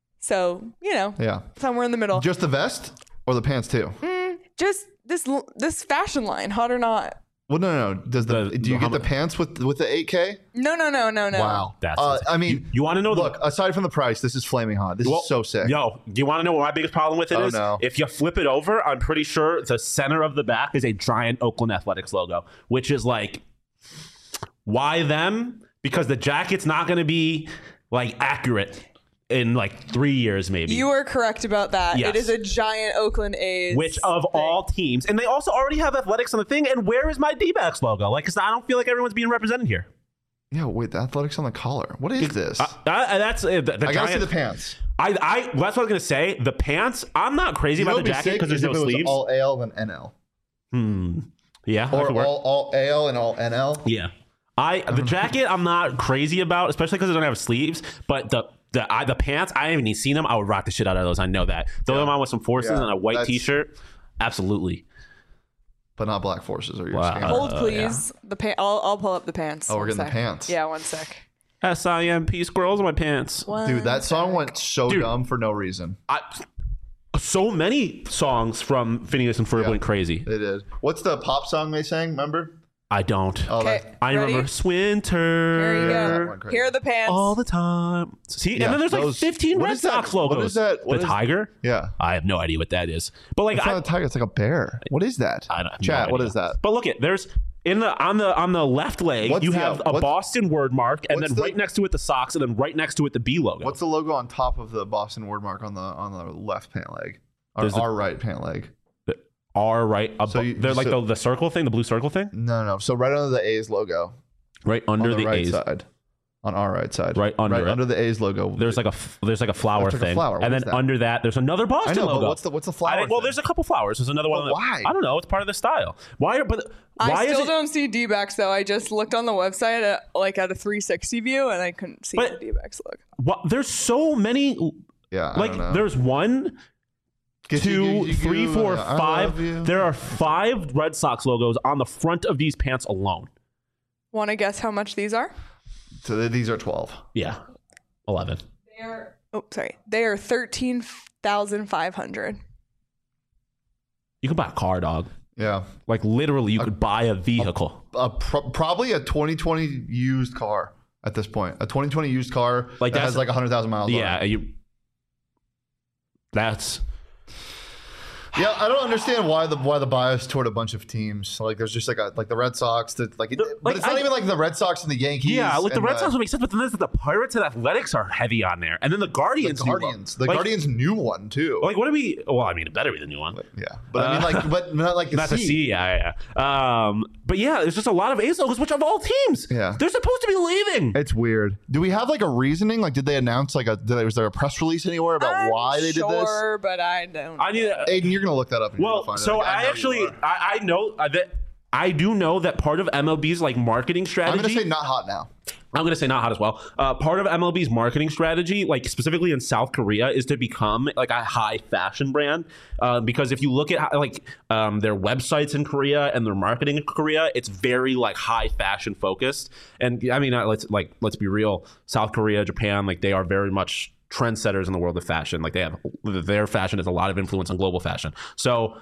So, you know, Yeah, somewhere in the middle. just the vest or the pants too? Mm, just this this fashion line, hot or not. Well, no, no, no. Does the, The- do you how get the mu- pants with with the eight K? No, no, no, no, no. Wow, That's Uh, insane. I mean, You- you wanna know the- Look, aside from the price, this is flaming hot. This Well, is so sick. Yo, do you want to know what my biggest problem with it Oh, is? no. If you flip it over, I'm pretty sure the center of the back is a giant Oakland Athletics logo, which is like, why them? Because the jacket's not going to be like accurate in like three years, maybe. You are correct about that. Yes. It is a giant Oakland A's. Which of thing. all teams, and they also already have athletics on the thing. And where is my D-backs logo? Like, 'cause I don't feel like everyone's being represented here. Yeah, wait, the athletics on the collar. What is this? Uh, uh, that's uh, the, the I gotta giant. see the pants. I, I, that's what I was gonna say. The pants. I'm not crazy You know about the what'd be jacket because sick there's is no if it was sleeves. all A L then N L, Hmm. Yeah. that or could work. all all A L and all N L. Yeah. I the jacket I'm not crazy about, especially because it don't have sleeves. But the the I, the pants, I haven't even seen them. I would rock the shit out of those. I know that. Throw them on with some forces Yeah, and a white that's- T-shirt. Absolutely. But not black forces or your Wow. scam. Hold, Uh, please. The pa- I'll, I'll pull up the pants. Oh, we're One getting the sec. pants. Yeah, one sec. S I M P squirrels in my pants. One Dude, that song sec. went so Dude. dumb for no reason. I, so many songs from Phineas and Ferb Yeah. went crazy. They did. What's the pop song they sang? Remember? I don't. Oh, Okay, that- I ready? remember Swinter. Here you that go. went crazy. Here are the pants. All the time. See, Yeah, and then there's like those- fifteen what Red is that- Sox what logos. is that- what the is- tiger? yeah. I have no idea what that is. But like, It's I, not a tiger. It's like a bear. What is that? I don't have no Chat. What idea. is that? But look, it there's in the on the on the left leg, What's you the- have uh, a what's- Boston word mark, and what's then the- right next to it the Sox, and then right next to it the B logo. What's the logo on top of the Boston word mark on the on the left pant leg? Or There's the- our right pant leg? the R right above? So you- they're like so- the, the circle thing, the blue circle thing, No, no. So right under the A's logo, right on under the, the, right A's. side, on our right side, Right under right it. under the A's logo. There's like a f- there's like a flower That's like a thing, flower. What and is then that? under that there's another I Boston know, logo. but what's the what's the I flower? think- well, thing? there's a couple flowers. There's another one. But that- why? I don't know. It's part of the style. Why? Are, but why I is still it? don't see D-backs though. I just looked on the website at, like at a three sixty view and I couldn't see But- the D-backs look. What, there's so many. yeah, I Like don't know. there's one, Get you- two, get you- three, four, I five. love you. There are five Red Sox logos on the front of these pants alone. Want to guess how much these are? So th- these are twelve. Yeah, eleven. They are. Oh, sorry. They are thirteen thousand five hundred. You could buy a car, dog. Yeah. Like literally, you could buy a vehicle. A pro- probably a twenty twenty used car at this point. A twenty twenty used car Like that that's- has like one hundred thousand miles on Yeah, it. you. That's Yeah, I don't understand why the why the bias toward a bunch of teams. Like there's just like a, like the Red Sox that like, it, The- but like, it's not I- even like the Red Sox and the Yankees. yeah, like the and Red Sox would make sense, but then there's the Pirates and Athletics are heavy on there, and then the the Guardians. new one. Guardians. The Like- Guardians new one too. Like, what do we? Well, I mean, it better be the new one. Yeah, but I mean like, but not like the Not the C. C, yeah, yeah. Um, but yeah, there's just a lot of ace logos, which of all teams, Yeah. they're supposed to be leaving. It's weird. Do we have like a reasoning? Like, did they announce like a? Did, was there a press release anywhere about I'm why they did this? Sure, but I don't. I need. A, Aiden, you're gonna look that up. And you're well, gonna find so it. I, know actually, you are. I, I know uh, that I do know that part of M L B's like marketing I'm strategy. gonna say not hot now. I'm going to say not hot as well. Uh, part of M L B's marketing strategy, like specifically in South Korea, is to become like a high fashion brand. Uh, because if you look at how, like um, their websites in Korea and their marketing in Korea, it's very like high fashion focused. And I mean, uh, let's like let's be real. South Korea, Japan, like they are very much trendsetters in the world of fashion. Like they have their fashion has a lot of influence on global fashion. So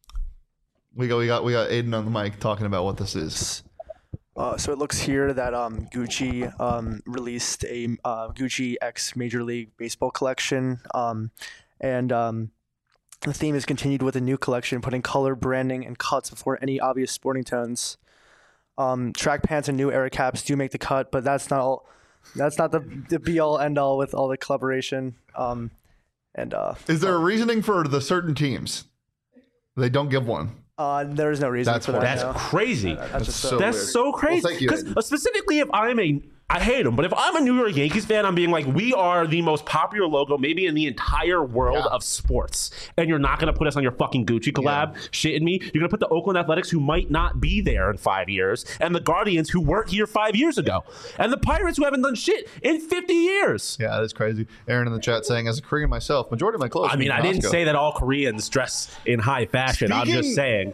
We go. We got. We got Aiden on the mic talking about what this is. Uh, so it looks here that um, Gucci um, released a uh, Gucci X Major League Baseball collection, um, and um, the theme is continued with a new collection, putting color, branding, and cuts before any obvious sporting tones. Um, track pants and new era caps do make the cut, but that's not all. That's not the the be all end all with all the collaboration. Um, and uh, Is there a reasoning for the certain teams? They don't give one. uh, there is no reason That's for that. what- that's no. crazy. That's just so so. That's weird. so crazy. Well, thank you, Because Aiden. specifically, if I'm a, I hate them, but if I'm a New York Yankees fan, I'm being like, we are the most popular logo maybe in the entire world Yeah. of sports, and you're not going to put us on your fucking Gucci collab, shitting me. You're going to put the Oakland Athletics, who might not be there in five years, and the Guardians, who weren't here five years ago, and the Pirates, who haven't done shit in fifty years. Yeah, that's crazy. Aaron in the chat saying, as a Korean myself, majority of my clothes. I mean, I didn't say that all Koreans dress in high fashion. I'm Speaking- just saying.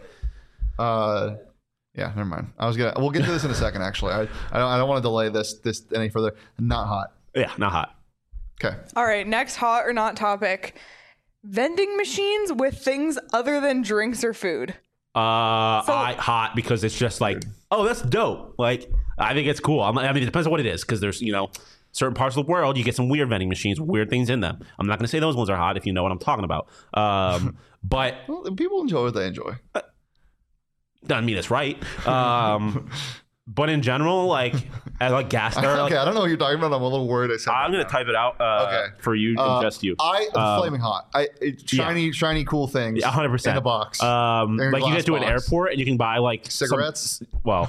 Uh, yeah, never mind. I was gonna. We'll get to this in a second. Actually, I, I don't. I don't want to delay this this any further. Not hot. Yeah, not hot. Okay. All right, next hot or not topic: vending machines with things other than drinks or food. Uh, So- I hot because it's just like, oh, that's dope. Like, I think it's cool. I'm, I mean, it depends on what it is, because there's, you know, certain parts of the world you get some weird vending machines with weird things in them. I'm not going to say those ones are hot if you know what I'm talking about. Um, but Well, people enjoy what they enjoy. doesn't mean it's right. Um, but in general, like, at like gas, or, like, okay, I don't know what you're talking about. I'm a little worried. I said I'm that going to now. type it out uh, Okay. for you, Uh, just you. I Um, flaming hot. I it, shiny, shiny, cool things. Yeah, one hundred percent in a box. Um, They're in like you glass get to an box. airport and you can buy like some- Cigarettes? well,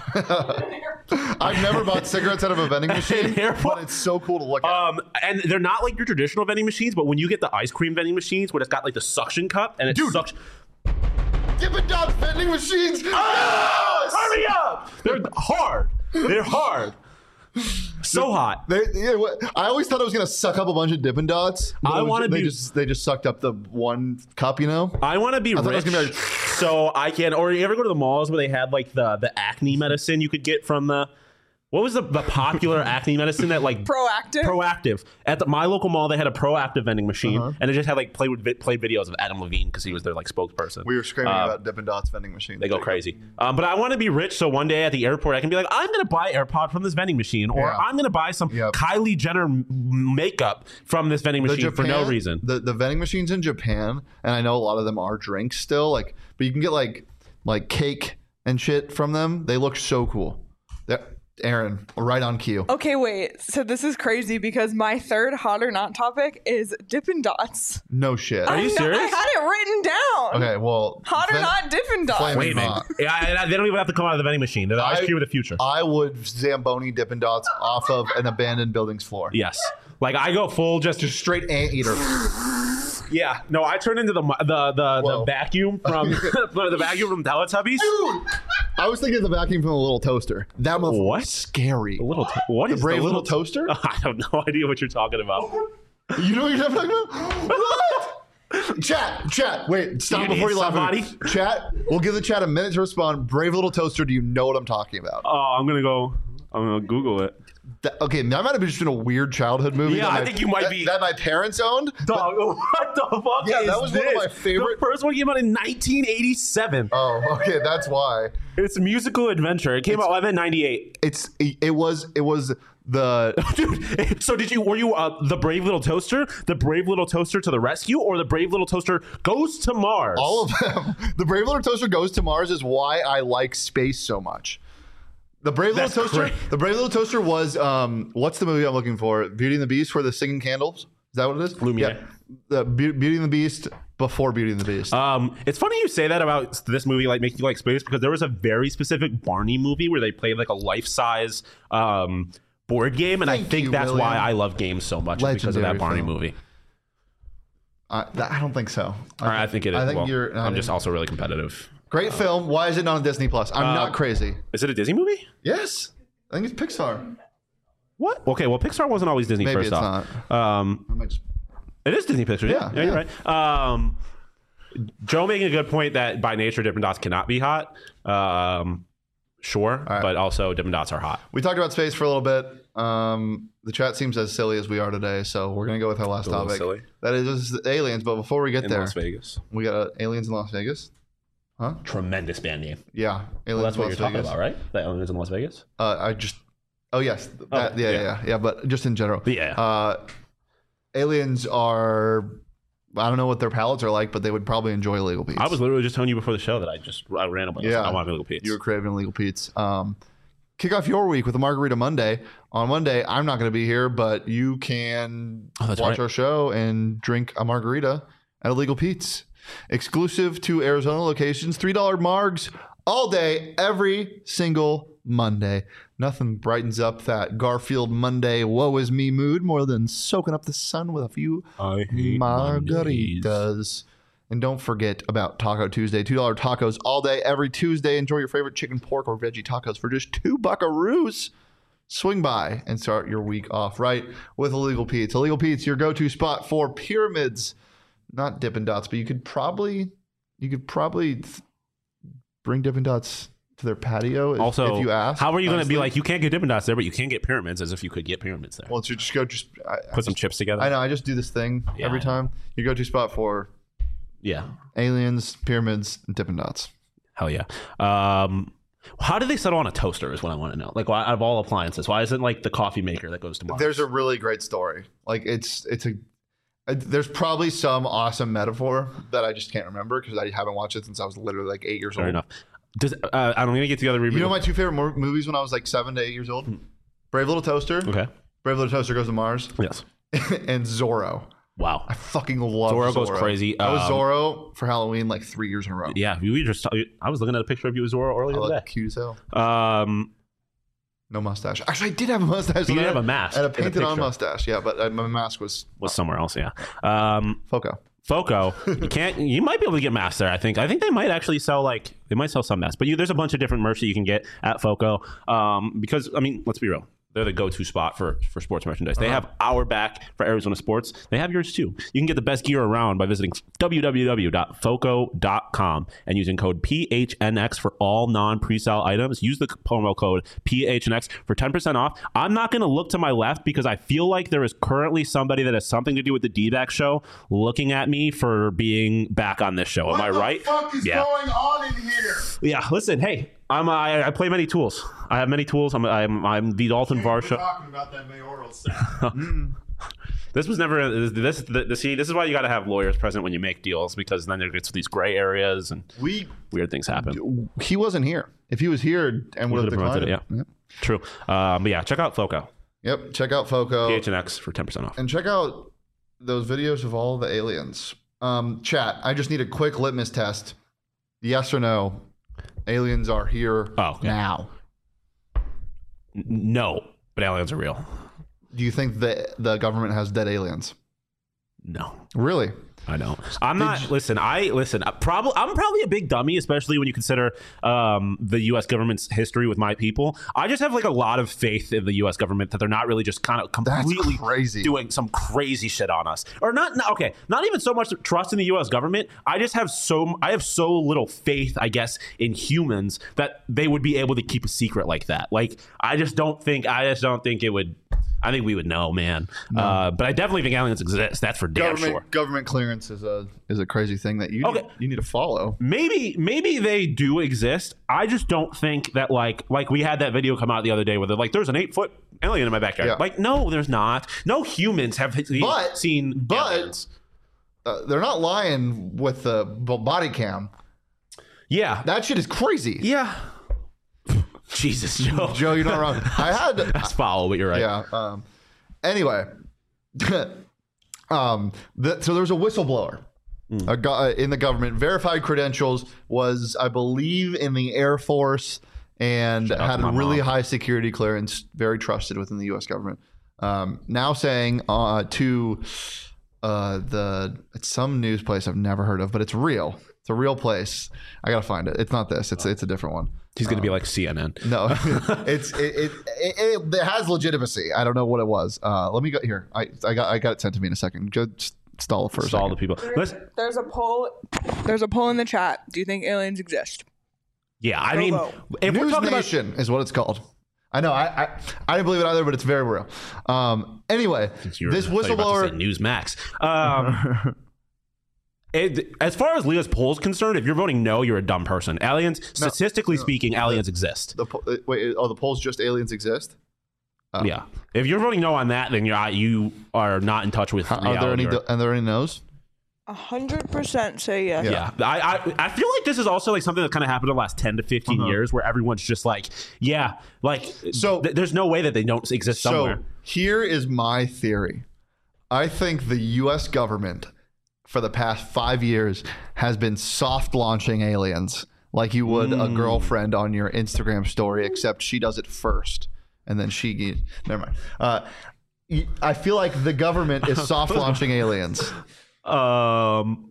I've never bought cigarettes out of a vending machine, airport? but it's so cool to look at. Um, and they're not like your traditional vending machines, but when you get the ice cream vending machines, where it's got like the suction cup and it's Dude. suction. Dippin' Dots vending machines. Ah! Yes! Hurry up! They're hard. They're hard. So hot. They, yeah, what- I always thought I was gonna suck up a bunch of Dippin' Dots. but I it was- wanna they be- just they just sucked up the one cup, you know. I want to be thought it rich, was gonna be like- so I can. Or you ever go to the malls where they had like the the acne medicine you could get from the. What was the, the popular acne medicine that like Proactive. Proactive at the, my local mall? They had a Proactive vending machine, Uh-huh. and it just had like play with played videos of Adam Levine because he was their like spokesperson. We were screaming Uh, about Dippin' Dots vending machines. They go crazy. Um, but I want to be rich, so one day at the airport, I can be like, I'm going to buy AirPod from this vending machine, or Yeah. I'm going to buy some Yep. Kylie Jenner m- makeup from this vending The machine for no reason. The the vending machines in Japan, and I know a lot of them are drinks still, like, but you can get like like cake and shit from them. They look so cool. They're, Aaron, right on cue. Okay, wait. So this is crazy because my third hot or not topic is Dippin' Dots. No shit. Are you I know- serious? I had it written down. Okay, well, Hot or ven- not Dippin' Dots. Flame- Wait a minute. Not. Yeah, I- they don't even have to come out of the vending machine. They're the ice I- cream of the future. I would Zamboni Dippin' Dots off of an abandoned building's floor. Yes. Like I go full just Just straight anteater. yeah. No, I turn into the the the, the Whoa. vacuum from the vacuum from Teletubbies. Dude, I was thinking of the vacuum from the little toaster. That motherfucker What? was scary. The little to- what The is brave the little toaster? I have no idea what you're talking about. You know what you're talking about? What? Chat, chat. Wait, stop You before need you laugh. at me. somebody? Chat, we'll give the chat a minute to respond. Brave little toaster. Do you know what I'm talking about? Oh, I'm gonna go. I'm gonna Google it. That, okay, that might have just been a weird childhood movie. Yeah, that I my, think you might that, be- that my parents owned. Dog, what the fuck Yeah, is that was this? one of my favorite- The first one came out in nineteen eighty-seven. Oh, okay, that's why. It's a musical adventure. It came out. I meant ninety-eight. It's it was it was the Dude, so did you? Were you uh, the brave little toaster, the brave little toaster to the rescue, or the brave little toaster goes to Mars? all of them. The Brave Little Toaster Goes to Mars is why I like space so much. The Brave That's Little Toaster. great. The Brave Little Toaster was um. What's the movie I'm looking for? Beauty and the Beast, where the singing candles. Is that what it is? Lumiere. Yeah. The Be- Beauty and the Beast before Beauty and the Beast. Um, it's funny you say that about this movie, like making you like space, because there was a very specific Barney movie where they played like a life-size um board game, and Thank I think you, that's William. why I love games so much, is because of Legendary that Barney film. movie. I, that, I don't think so. All right, I think it is. I think well, you're. I'm I just think- also really competitive. great film. Why is it not on Disney Plus? I'm Uh, not crazy. Is it a Disney movie? Yes, I think it's Pixar. What? Okay, well, Pixar wasn't always Disney Maybe first it's off. not. Um, I might just- It is Disney Pictures. Yeah, Yeah, yeah, you're right. Um, Joe making a good point that by nature Dippin' Dots cannot be hot. Um, sure, right. but also Dippin' Dots are hot. We talked about space for a little bit. Um, the chat seems as silly as we are today, so we're gonna go with our last A little topic. silly. That is just aliens. But before we get In there, Las Vegas. we got uh, aliens in Las Vegas. Huh? Tremendous band name. Yeah, aliens Well, that's in what Las you're talking Vegas. about, right? The aliens in Las Vegas. Uh, I just. Oh yes, that, Okay, yeah, yeah. yeah, yeah, yeah. But just in general, Yeah. Uh, aliens are. I don't know what their palates are like, but they would probably enjoy illegal Pete's. I was literally just telling you before the show that I just I randomly Yeah. I want illegal Pete's. You were craving illegal Pete's. Um, kick off your week with a Margarita Monday. On Monday, I'm not going to be here, but you can Oh, that's watch right. our show and drink a margarita at Illegal Pete's. Exclusive to Arizona locations, three dollar margs all day, every single Monday. Nothing brightens up that Garfield Monday woe is me mood more than soaking up the sun with a few I hate Mondays. margaritas. And don't forget about Taco Tuesday. two dollar tacos all day, every Tuesday. Enjoy your favorite chicken, pork, or veggie tacos for just two buckaroos. Swing by and start your week off right with Illegal Pete's. Illegal Pete's, your go-to spot for pyramids. Not Dippin' Dots, but you could probably you could probably th- bring Dippin' Dots to their patio if, Also, if you ask. how are you going to be honestly. like, you can't get Dippin' Dots there, but you can get pyramids, as if you could get pyramids there? Well, to just go just I, I Put some just- chips together. I know. I just do this thing Yeah, every I know. time. Your go-to spot for Yeah. aliens, pyramids, and Dippin' Dots. Hell yeah. Um, how did they settle on a toaster is what I want to know. Like, why, out of all appliances, why isn't like the coffee maker that goes to Mars? There's a really great story. Like it's it's a uh, there's probably some awesome metaphor that I just can't remember because I haven't watched it since I was literally like eight years Fair old. enough. Does uh, I'm going to get together. You know my two favorite mo- movies when I was like seven to eight years old? Brave Little Toaster. Okay. Brave Little Toaster Goes to Mars. Yes. And Zorro. Wow. I fucking love Zorro Zorro. goes crazy. I was Um, Zorro for Halloween like three years in a row. Yeah, we were just. I was looking at a picture of you as Zorro I earlier look today. cute as hell. Um, No mustache. Actually, I did have a mustache. you and did I have a had- mask. I had a in the painted on picture. mustache. Yeah, but uh, my mask was Was somewhere else. Yeah. Um, Foco. Foco, you can't. You might be able to get masks there. I think. I think they might actually sell like they might sell some masks, but you, there's a bunch of different merch that you can get at Foco. Um, because I mean, let's be real. They're the go-to spot for, for sports merchandise. They Uh-huh. have our back for Arizona sports. They have yours too. You can get the best gear around by visiting w w w dot foco dot com and using code P H N X for all non-presale items. Use the promo code P H N X for ten percent off. I'm not going to look to my left because I feel like there is currently somebody that has something to do with the D-back show looking at me for being back on this show. Am I right? What the fuck is Yeah. going on in here? Yeah, listen, hey, I'm I, I play many tools. I have many tools. I'm I'm I'm the Dalton We're Varsha. talking about that mayoral stuff. This was never this this, this see this is why you got to have lawyers present when you make deals, because then there gets these gray areas and We weird things happen. he wasn't here. If he was here and would have would've promoted declined it, it. yeah. True. Um, but yeah, check out Foco. Yep. Check out Foco. P H N X for ten percent off. And check out those videos of all the aliens. Um, chat, I just need a quick litmus test. Yes or no? Aliens are here Oh, okay. now. N- No, but aliens are real. Do you think that the government has dead aliens? No. Really? I know. I'm not. Listen, I listen. Probably, I'm probably a big dummy, especially when you consider um, the U S government's history with my people. I just have like a lot of faith in the U S government that they're not really just kind of completely crazy. doing some crazy shit on us, or not. No, okay, not even so much trust in the U S government. I just have so I have so little faith, I guess, in humans that they would be able to keep a secret like that. Like, I just don't think. I just don't think it would. I think we would know, man. No. Uh, but I definitely think aliens exist. That's for damn government, sure. Government clearance is a is a crazy thing that you okay. need, you need to follow. Maybe maybe they do exist. I just don't think that like like we had that video come out the other day where they're like, there's an eight foot alien in my backyard. Yeah. Like, no, there's not. No humans have but, seen but, aliens. Uh, they're not lying with the body cam. Yeah, that shit is crazy. Yeah. Jesus, Joe. Joe, you're not wrong. I had that's foul, but you're right. Yeah. Um, anyway, um, the, so there's a whistleblower mm. a go- in the government. Verified credentials, was I believe in the Air Force, and Shout had a really mom. high security clearance, very trusted within the U S government. Um, now saying uh, to uh, the it's some news place I've never heard of, but it's real. It's a real place. I gotta find it. It's not this. It's it's a different one. He's going to um, be like C N N. No, it's it it, it it it has legitimacy. I don't know what it was. Uh, let me go here. I I got I got it sent to me in a second. Just stall it for a stall second. the people. There's, there's a poll. There's a poll in the chat. Do you think aliens exist? Yeah, I Go mean, vote. if News we're talking Nation about is what it's called. I know. I, I I didn't believe it either, but it's very real. Um. Anyway, You're, this whistleblower Newsmax. Um. It, as far as Leah's poll is concerned, if you're voting no, you're a dumb person. Aliens, no, statistically no, speaking, the, aliens exist. The wait, oh, the polls just aliens exist. Oh. Yeah, if you're voting no on that, then you're you are not in touch with. Are there any? Or, are there any no's? A hundred percent say yes. Yeah, yeah. I, I I feel like this is also like something that kind of happened in the last ten to fifteen uh-huh. years, where everyone's just like, yeah, like so. Th- there's no way that they don't exist somewhere. So here is my theory. I think the U S government, for the past five years, has been soft launching aliens like you would mm. a girlfriend on your Instagram story, except she does it first and then she never mind. Uh, I feel like the government is soft launching aliens. Um.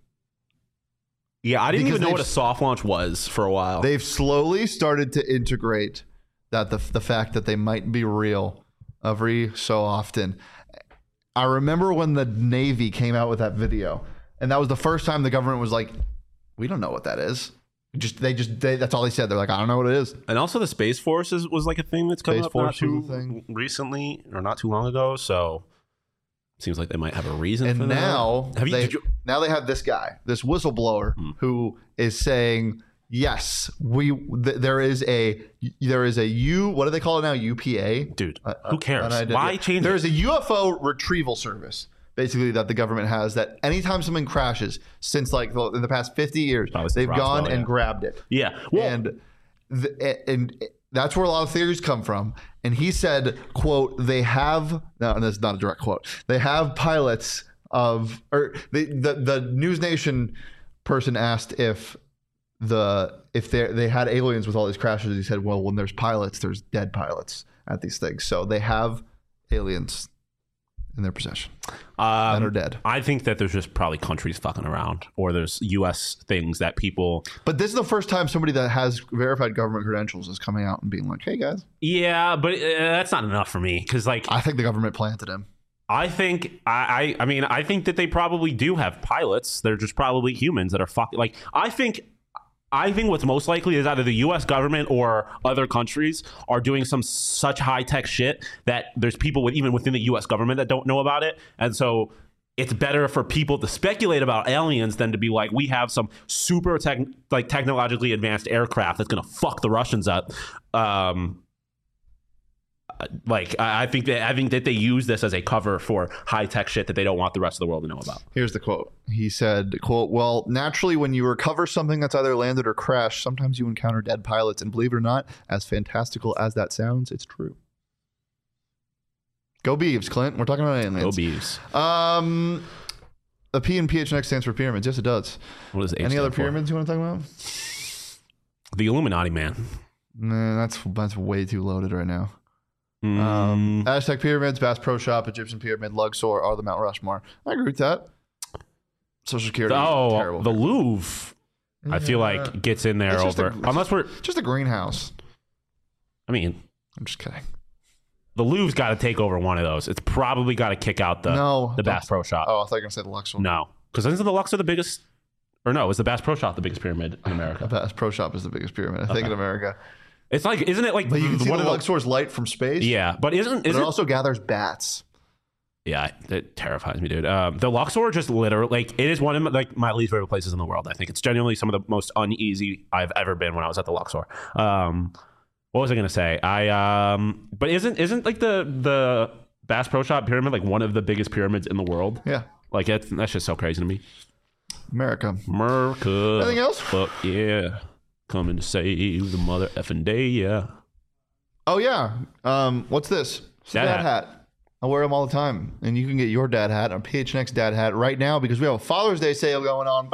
Yeah, I didn't because even know what a soft launch was for a while. They've slowly started to integrate that the the fact that they might be real every so often. I remember when the Navy came out with that video, and that was the first time the government was like, "We don't know what that is." Just they just they, that's all they said. They're like, "I don't know what it is." And also, the Space Force is, was like a thing that's come Space up Force not too thing. recently or not too long ago. So seems like they might have a reason. And for now that. Have you, they, you, now they have this guy, this whistleblower, hmm. who is saying, "Yes, we th- there is a there is a U. What do they call it now? U P A, dude. Uh, who cares? Uh, Why change? There it? is a U F O retrieval service, basically, that the government has. That anytime something crashes, since like the, in the past fifty years, they've gone well, and yeah. grabbed it. Yeah, well, and the, and that's where a lot of theories come from. And he said, "quote They have no, that's not a direct quote. They have pilots of or they, the the News Nation person asked if." The if they they had aliens with all these crashes, he said, well, when there's pilots, there's dead pilots at these things, so they have aliens in their possession um, that are dead. I think that there's just probably countries fucking around, or there's U S things that people. But this is the first time somebody that has verified government credentials is coming out and being like, "Hey guys." Yeah, but uh, that's not enough for me because, like, I think the government planted him. I think I, I I mean I think that they probably do have pilots. They're just probably humans that are fucking like I think. I think what's most likely is either the U S government or other countries are doing some such high-tech shit that there's people with, even within the U S government that don't know about it. And so it's better for people to speculate about aliens than to be like, we have some super tech, like technologically advanced aircraft that's going to fuck the Russians up. Um, like I think that I think that they use this as a cover for high tech shit that they don't want the rest of the world to know about. Here's the quote. He said, "quote Well, naturally, when you recover something that's either landed or crashed, sometimes you encounter dead pilots, and believe it or not, as fantastical as that sounds, it's true." Go Beavs, Clint. We're talking about aliens. Go Beavs. Um, the P in P H N X stands for pyramids. Yes, it does. What does H Any other for? pyramids you want to talk about? The Illuminati, man. Nah, that's that's way too loaded right now. Mm. Um, Aztec pyramids, Bass Pro Shop, Egyptian pyramid, Luxor are the Mount Rushmore. I agree with that. Social Security. Oh, terrible. the Louvre, I feel Yeah. like gets in there It's just over. a- it's unless we're, Just a greenhouse. I mean, I'm just kidding. the Louvre's got to take over one of those. It's probably got to kick out the No, the don't- Bass Pro Shop. Oh, I thought you were gonna say the Luxor. No, because isn't the Luxor the biggest? Or no, is the Bass Pro Shop the biggest pyramid in The America? Bass Pro Shop is the biggest pyramid, I think, Okay. in America. It's like, isn't it like But you can see one the of the- Luxor's light from space. Yeah, but isn't But it isn't also gathers bats. yeah, it terrifies me, dude. Um, the Luxor just literally like it is one of my, like my least favorite places in the world. I think it's genuinely some of the most uneasy I've ever been when I was at the Luxor. Um, what was I gonna say? I um, but isn't isn't like the the Bass Pro Shop pyramid like one of the biggest pyramids in the world? Yeah. Like that's that's just so crazy to me. America. America. Anything else? Fuck yeah, coming to save the mother effing day. Yeah. Oh, yeah. Um, what's this? It's a Dad dad hat. hat. I wear them all the time. And you can get your dad hat on P H N X dad hat right now because we have a Father's Day sale going on.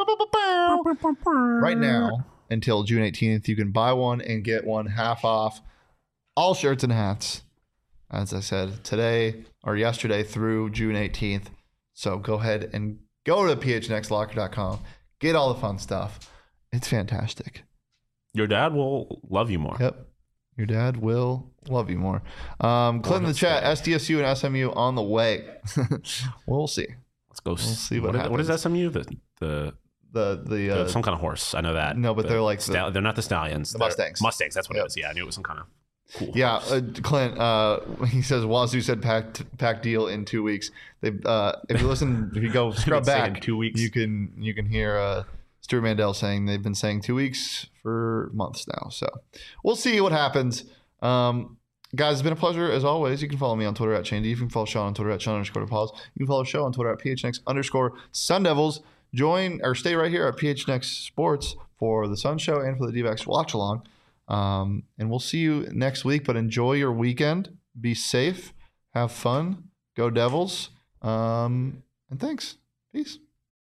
Right now until June eighteenth. You can buy one and get one half off all shirts and hats. As I said, today or yesterday through June eighteenth. So go ahead and go to P H N X locker dot com. Get all the fun stuff. It's fantastic. Your dad will love you more. Yep. Your dad will love you more. Um, Clint in the chat, S D S U and S M U on the way. We'll see. Let's go. We'll see what is- What is happens. S M U? The the, The the uh, the some kind of horse. I know that. no, but they're like the- Stal- they're not the stallions. the They're- Mustangs. Mustangs. That's what Yep. it is. Yeah, I knew it was some kind of cool. yeah, horse. uh, Clint. Uh, he says Wazoo said packed pack deal in two weeks. They uh, if you listen, if you go scrub been saying back, two weeks. you can you can hear uh, Stuart Mandel saying they've been saying two weeks for months now. So we'll see what happens. Um, guys, it's been a pleasure as always. You can follow me on Twitter at Shane D. You can follow Sean on Twitter at Sean underscore DePaul. You can follow the show on Twitter at P H N X underscore Sun Devils. Join or stay right here at P H N X Sports for the Sun Show and for the D-backs watch along. Um, and we'll see you next week. But enjoy your weekend. Be safe. Have fun. Go Devils. Um, and thanks. Peace.